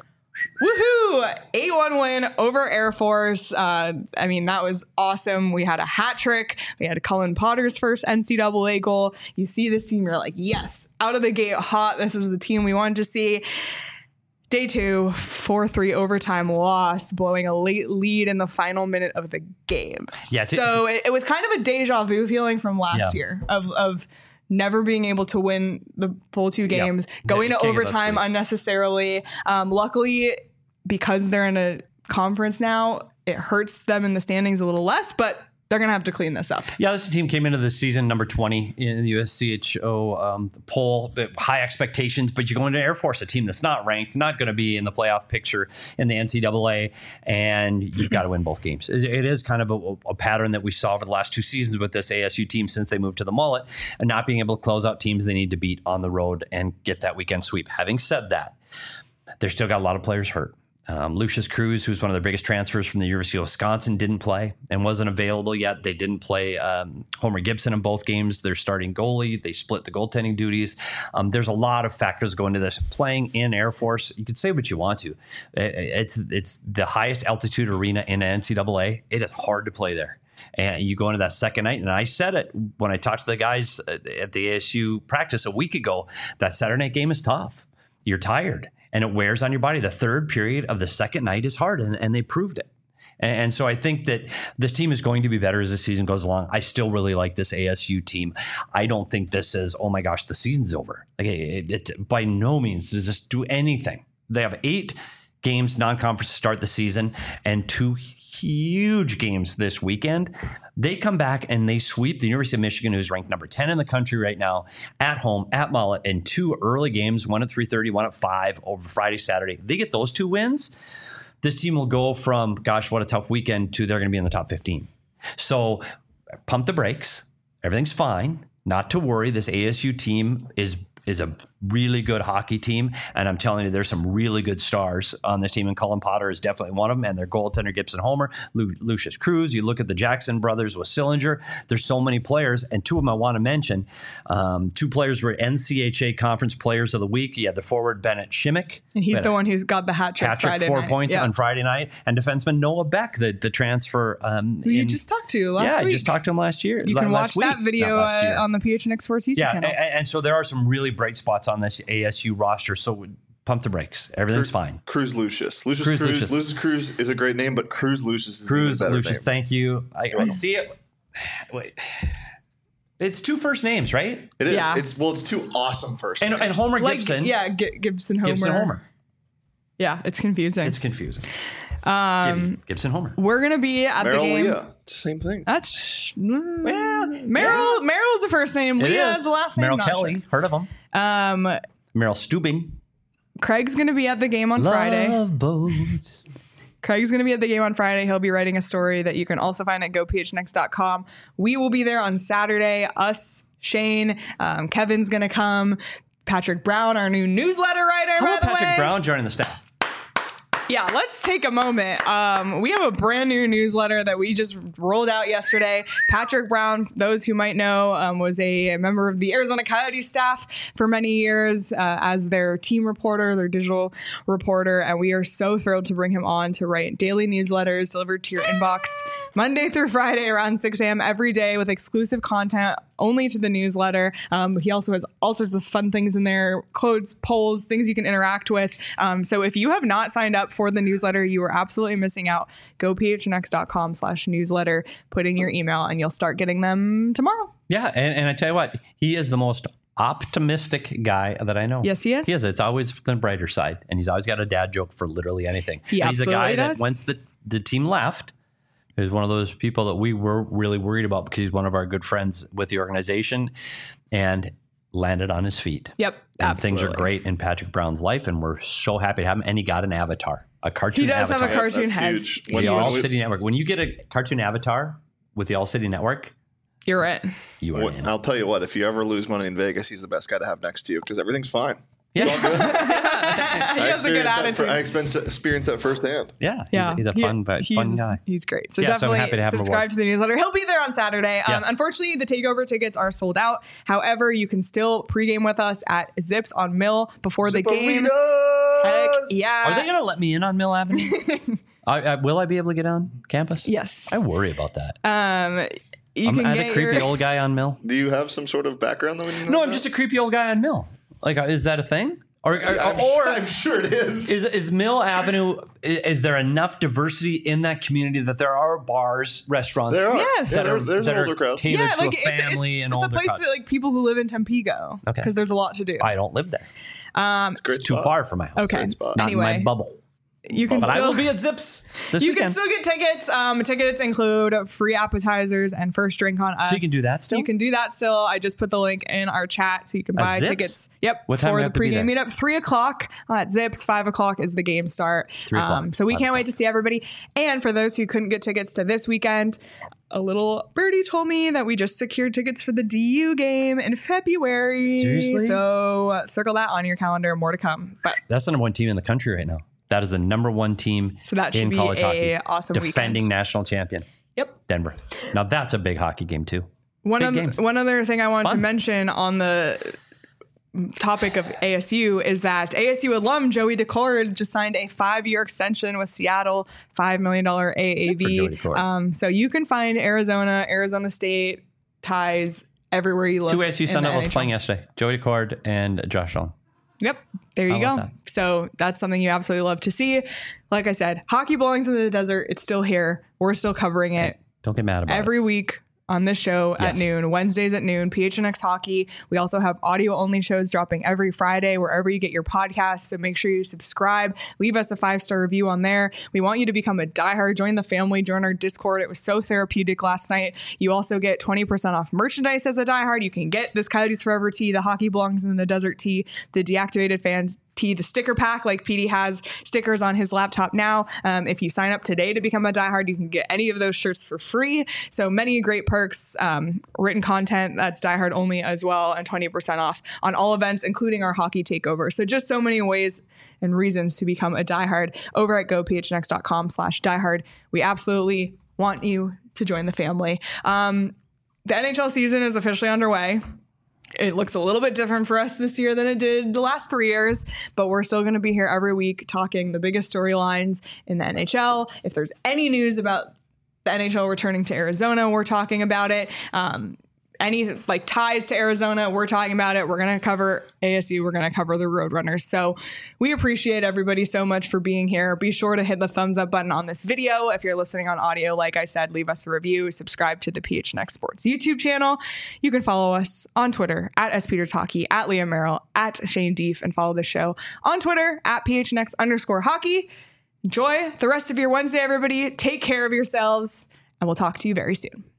Speaker 1: Woohoo! eight one win over Air Force. Uh, I mean, that was awesome. We had a hat trick. We had Cullen Potter's first N C double A goal. You see this team, you're like, yes, out of the gate hot. This is the team we wanted to see. Day two, four three overtime loss, blowing a late lead in the final minute of the game.
Speaker 2: Yeah, t-
Speaker 1: so it, it was kind of a deja vu feeling from last
Speaker 2: Yeah.
Speaker 1: year of of never being able to win the full two games,
Speaker 2: Yeah.
Speaker 1: going
Speaker 2: Yeah,
Speaker 1: to
Speaker 2: can't get that
Speaker 1: overtime
Speaker 2: sweep.
Speaker 1: unnecessarily. Um, luckily, because they're in a conference now, it hurts them in the standings a little less, but they're going to have to clean this up.
Speaker 2: Yeah, this team came into the season number twenty in the U S C H O um, poll. But high expectations, but you go into Air Force, a team that's not ranked, not going to be in the playoff picture in the N C double A, and you've got to win both games. It it is kind of a, a pattern that we saw over the last two seasons with this A S U team since they moved to the mullet, and not being able to close out teams they need to beat on the road and get that weekend sweep. Having said that, they've still got a lot of players hurt. Um, Lucius Cruz, who's one of their biggest transfers from the University of Wisconsin, didn't play and wasn't available yet. They didn't play um, Homer Gibson in both games. They're starting goalie. They split the goaltending duties. Um, there's a lot of factors going into this. Playing in Air Force, you can say what you want to. It's it's the highest altitude arena in N C double A. It is hard to play there. And you go into that second night, and I said it when I talked to the guys at the A S U practice a week ago, that Saturday night game is tough. You're tired. And it wears on your body. The third period of the second night is hard, and, and they proved it. And, and so I think that this team is going to be better as the season goes along. I still really like this A S U team. I don't think this is, oh my gosh, the season's over. Like it, it, by no means does this do anything. They have eight games non-conference to start the season and two huge games this weekend. They come back and they sweep the University of Michigan, who's ranked number ten in the country right now, at home, at Mullet, in two early games, one at three thirty, one at five over Friday, Saturday. They get those two wins. This team will go from, gosh, what a tough weekend, to they're going to be in the top fifteen. So pump the brakes. Everything's fine. Not to worry. This A S U team is is a really good hockey team. And I'm telling you, there's some really good stars on this team. And Cullen Potter is definitely one of them. And their goaltender, Gibson Homer, Lu- Lucius Cruz. You look at the Jackson brothers with Sillinger. There's so many players. And two of them I want to mention. Um, two players were N C H A Conference Players of the Week. You had the forward Bennett Shimmick.
Speaker 1: And he's the one who's got the hat trick
Speaker 2: Hat trick,
Speaker 1: Friday
Speaker 2: four
Speaker 1: night.
Speaker 2: points
Speaker 1: Yeah.
Speaker 2: on Friday night. And defenseman Noah Beck, the, the transfer. Um,
Speaker 1: Who you
Speaker 2: in-
Speaker 1: just talked to last
Speaker 2: yeah,
Speaker 1: week.
Speaker 2: I just talked to him last year.
Speaker 1: You
Speaker 2: la-
Speaker 1: can
Speaker 2: last
Speaker 1: watch that
Speaker 2: week.
Speaker 1: video
Speaker 2: Not last
Speaker 1: uh,
Speaker 2: year.
Speaker 1: on the P H N X Sports YouTube
Speaker 2: Yeah,
Speaker 1: channel.
Speaker 2: and, and so there are some really bright spots on this A S U roster. So pump the brakes. Everything's fine.
Speaker 3: Cruz Lucius. Lucius
Speaker 2: Cruz
Speaker 3: Cruz,
Speaker 2: Lucius.
Speaker 3: Lucius Cruz is a great name, but Cruz Lucius is
Speaker 2: Cruz,
Speaker 3: a better
Speaker 2: Lucius,
Speaker 3: name.
Speaker 2: thank you. I, I
Speaker 3: welcome.
Speaker 2: see it. Wait. It's two first names, right?
Speaker 3: It is.
Speaker 1: Yeah.
Speaker 3: It's well, it's two awesome first
Speaker 2: And,
Speaker 3: names.
Speaker 2: and Homer
Speaker 1: like,
Speaker 2: Gibson.
Speaker 1: yeah, G- Gibson Homer.
Speaker 2: Gibson Homer.
Speaker 1: Yeah, it's confusing.
Speaker 2: It's confusing. Um, Gibson Homer.
Speaker 1: We're going to be at
Speaker 3: Merrill
Speaker 1: the game.
Speaker 3: Leah. It's the same thing.
Speaker 1: That's mm,
Speaker 2: Yeah,
Speaker 1: Merrill. Merrill's the first name.
Speaker 2: It
Speaker 1: Leah
Speaker 2: is.
Speaker 1: is the last name.
Speaker 2: Merrill
Speaker 1: Not
Speaker 2: Kelly.
Speaker 1: sure.
Speaker 2: Heard of him.
Speaker 1: Um,
Speaker 2: Merrill Stubing.
Speaker 1: Craig's going to be at the game on Friday.
Speaker 2: Love boat.
Speaker 1: Craig's going to be at the game on Friday. He'll be writing a story that you can also find at go p h n x dot com. We will be there on Saturday. Us, Shane, um, Kevin's going to come. Patrick Brown, our new newsletter writer,
Speaker 2: How
Speaker 1: by
Speaker 2: about
Speaker 1: the
Speaker 2: Patrick
Speaker 1: way.
Speaker 2: Brown joining the staff?
Speaker 1: Yeah, let's take a moment. Um, we have a brand new newsletter that we just rolled out yesterday. Patrick Brown, those who might know, um, was a member of the Arizona Coyotes staff for many years uh, as their team reporter, their digital reporter, and we are so thrilled to bring him on to write daily newsletters delivered to your inbox Monday through Friday around six a.m. every day with exclusive content only to the newsletter. Um, he also has all sorts of fun things in there, codes, polls, things you can interact with. Um, so if you have not signed up for the newsletter, you are absolutely missing out. go p h n x dot com slash newsletter, put in your email, and you'll start getting them tomorrow.
Speaker 2: Yeah, and, and I tell you what, he is the most optimistic guy that I know.
Speaker 1: Yes, he is.
Speaker 2: He is. It's always the brighter side, and he's always got a dad joke for literally anything.
Speaker 1: He
Speaker 2: and he's a guy
Speaker 1: absolutely does.
Speaker 2: that once the, the team left, is one of those people that we were really worried about because he's one of our good friends with the organization and landed on his feet.
Speaker 1: Yep,
Speaker 2: and
Speaker 1: absolutely.
Speaker 2: things are great in Patrick Brown's life, and we're so happy to have him. And he got an avatar, a cartoon
Speaker 1: He does
Speaker 2: avatar.
Speaker 1: have a cartoon
Speaker 3: That's
Speaker 1: head.
Speaker 3: huge.
Speaker 2: The
Speaker 3: When, when
Speaker 2: All
Speaker 3: we-
Speaker 2: City Network. When you get a cartoon avatar with the All City Network,
Speaker 1: You're it.
Speaker 2: you are
Speaker 3: Well,
Speaker 2: in.
Speaker 3: I'll tell you what, if you ever lose money in Vegas, he's the best guy to have next to you because everything's fine.
Speaker 2: Yeah.
Speaker 3: It's all good.
Speaker 1: He
Speaker 3: I
Speaker 1: has a good
Speaker 3: experienced that
Speaker 1: attitude.
Speaker 3: fir- I experienced, experienced that firsthand.
Speaker 2: Yeah, he's,
Speaker 1: Yeah,
Speaker 2: he's a
Speaker 1: He-
Speaker 2: fun, but
Speaker 1: he's,
Speaker 2: fun guy.
Speaker 1: He's great. So
Speaker 2: Yeah, so I'm
Speaker 1: definitely
Speaker 2: happy to have him
Speaker 1: subscribe
Speaker 2: aboard.
Speaker 1: to the newsletter. He'll be there on Saturday. Um,
Speaker 2: Yes.
Speaker 1: Unfortunately, the takeover tickets are sold out. However, you can still pregame with us at Zips on Mill before the game. Heck yeah.
Speaker 2: Are they going to let me in on Mill Avenue? I, I, will I be able to get on campus?
Speaker 1: Yes.
Speaker 2: I worry about that.
Speaker 1: Um, you
Speaker 2: I'm,
Speaker 1: can
Speaker 2: I'm
Speaker 1: get
Speaker 2: the creepy
Speaker 1: your,
Speaker 2: old guy on Mill.
Speaker 3: Do you have some sort of background that we need to know
Speaker 2: No, I'm
Speaker 3: about?
Speaker 2: just a creepy old guy on Mill. Like, uh, is that a thing? Or, or,
Speaker 3: I'm,
Speaker 2: or
Speaker 3: sure, I'm sure it is.
Speaker 2: is, is Mill Avenue, is, is there enough diversity in that community that there are bars, restaurants
Speaker 3: There are.
Speaker 1: Yes.
Speaker 3: Yeah,
Speaker 2: that
Speaker 3: there-
Speaker 2: are,
Speaker 3: there's
Speaker 2: that
Speaker 3: an
Speaker 2: are
Speaker 3: older crowd.
Speaker 2: tailored
Speaker 1: yeah,
Speaker 2: to
Speaker 1: like
Speaker 2: a family
Speaker 1: it's, it's,
Speaker 2: and
Speaker 1: it's a
Speaker 2: older
Speaker 1: place
Speaker 2: crowd?
Speaker 1: that like people who live in Tempe-go
Speaker 2: Okay.
Speaker 1: because there's a lot to do.
Speaker 2: I don't live there.
Speaker 1: Um,
Speaker 3: It's a great
Speaker 2: It's too
Speaker 3: spot.
Speaker 2: far from my house.
Speaker 1: okay.
Speaker 3: Great spot.
Speaker 2: Not in
Speaker 1: Anyway,
Speaker 2: my bubble.
Speaker 1: you can
Speaker 2: But I
Speaker 1: still
Speaker 2: will be at Zips this
Speaker 1: You
Speaker 2: weekend.
Speaker 1: can still get tickets. Um, tickets include free appetizers and first drink on us.
Speaker 2: So you can do that still?
Speaker 1: You can do that still. I just put the link in our chat so you can buy
Speaker 2: Zips?
Speaker 1: tickets. Yep.
Speaker 2: What time do
Speaker 1: for
Speaker 2: we
Speaker 1: the
Speaker 2: have to be
Speaker 1: pregame
Speaker 2: there?
Speaker 1: meetup. Three o'clock at Zips. Five o'clock is the game start.
Speaker 2: Three o'clock.
Speaker 1: Um, so we
Speaker 2: Five
Speaker 1: can't
Speaker 2: o'clock.
Speaker 1: wait to see everybody. And for those who couldn't get tickets to this weekend, a little birdie told me that we just secured tickets for the D U game in February.
Speaker 2: Seriously?
Speaker 1: So uh, circle that on your calendar. More to come. But
Speaker 2: That's the number one team in the country right now. That is the number one team
Speaker 1: So that should
Speaker 2: in
Speaker 1: be
Speaker 2: college
Speaker 1: a
Speaker 2: hockey.
Speaker 1: awesome
Speaker 2: defending
Speaker 1: weekend.
Speaker 2: national champion,
Speaker 1: yep.
Speaker 2: Denver. Now that's a big hockey game too.
Speaker 1: One,
Speaker 2: Big
Speaker 1: oth-
Speaker 2: games.
Speaker 1: one other thing I wanted
Speaker 2: Fun.
Speaker 1: to mention on the topic of A S U is that A S U alum Joey Decord just signed a five-year extension with Seattle, five million dollars A A
Speaker 2: Good for
Speaker 1: V.
Speaker 2: Joey Decord.
Speaker 1: Um, so you can find Arizona, Arizona State ties everywhere you look.
Speaker 2: Two A S U
Speaker 1: in
Speaker 2: Sun
Speaker 1: the
Speaker 2: Devils
Speaker 1: N H L.
Speaker 2: playing yesterday. Joey Decord and Josh Allen.
Speaker 1: Yep. There you
Speaker 2: How
Speaker 1: go.
Speaker 2: about
Speaker 1: So that's something you absolutely love to see. Like I said, hockey belongs in the desert. It's still here. We're still covering it
Speaker 2: Don't get mad about
Speaker 1: every week on this show at
Speaker 2: Yes.
Speaker 1: noon, Wednesdays at noon, P H N X Hockey. We also have audio only shows dropping every Friday wherever you get your podcasts. So make sure you subscribe, leave us a five star review on there. We want you to become a diehard, join the family, join our Discord. It was so therapeutic last night. You also get twenty percent off merchandise as a diehard. You can get this Coyotes Forever tee, the Hockey Belongs in the Desert tee, the Deactivated Fans tee, the sticker pack, like P D has stickers on his laptop now. Um, if you sign up today to become a diehard, you can get any of those shirts for free. So many great perks, um, written content that's diehard only as well, and twenty percent off on all events, including our hockey takeover. So just so many ways and reasons to become a diehard over at go p h n x dot com slash diehard. We absolutely want you to join the family. Um, the N H L season is officially underway. It looks a little bit different for us this year than it did the last three years, but we're still going to be here every week talking the biggest storylines in the N H L. If there's any news about the N H L returning to Arizona, we're talking about it. Um, any like ties to Arizona, we're talking about it. We're going to cover A S U. We're going to cover the Roadrunners. So we appreciate everybody so much for being here. Be sure to hit the thumbs up button on this video. If you're listening on audio, like I said, leave us a review, subscribe to the P H N X Sports YouTube channel. You can follow us on Twitter at S Peters Hockey, at Liam Merrill, at Shane Deef, and follow the show on Twitter at P H N X underscore hockey. Enjoy the rest of your Wednesday, everybody. Take care of yourselves, and we'll talk to you very soon.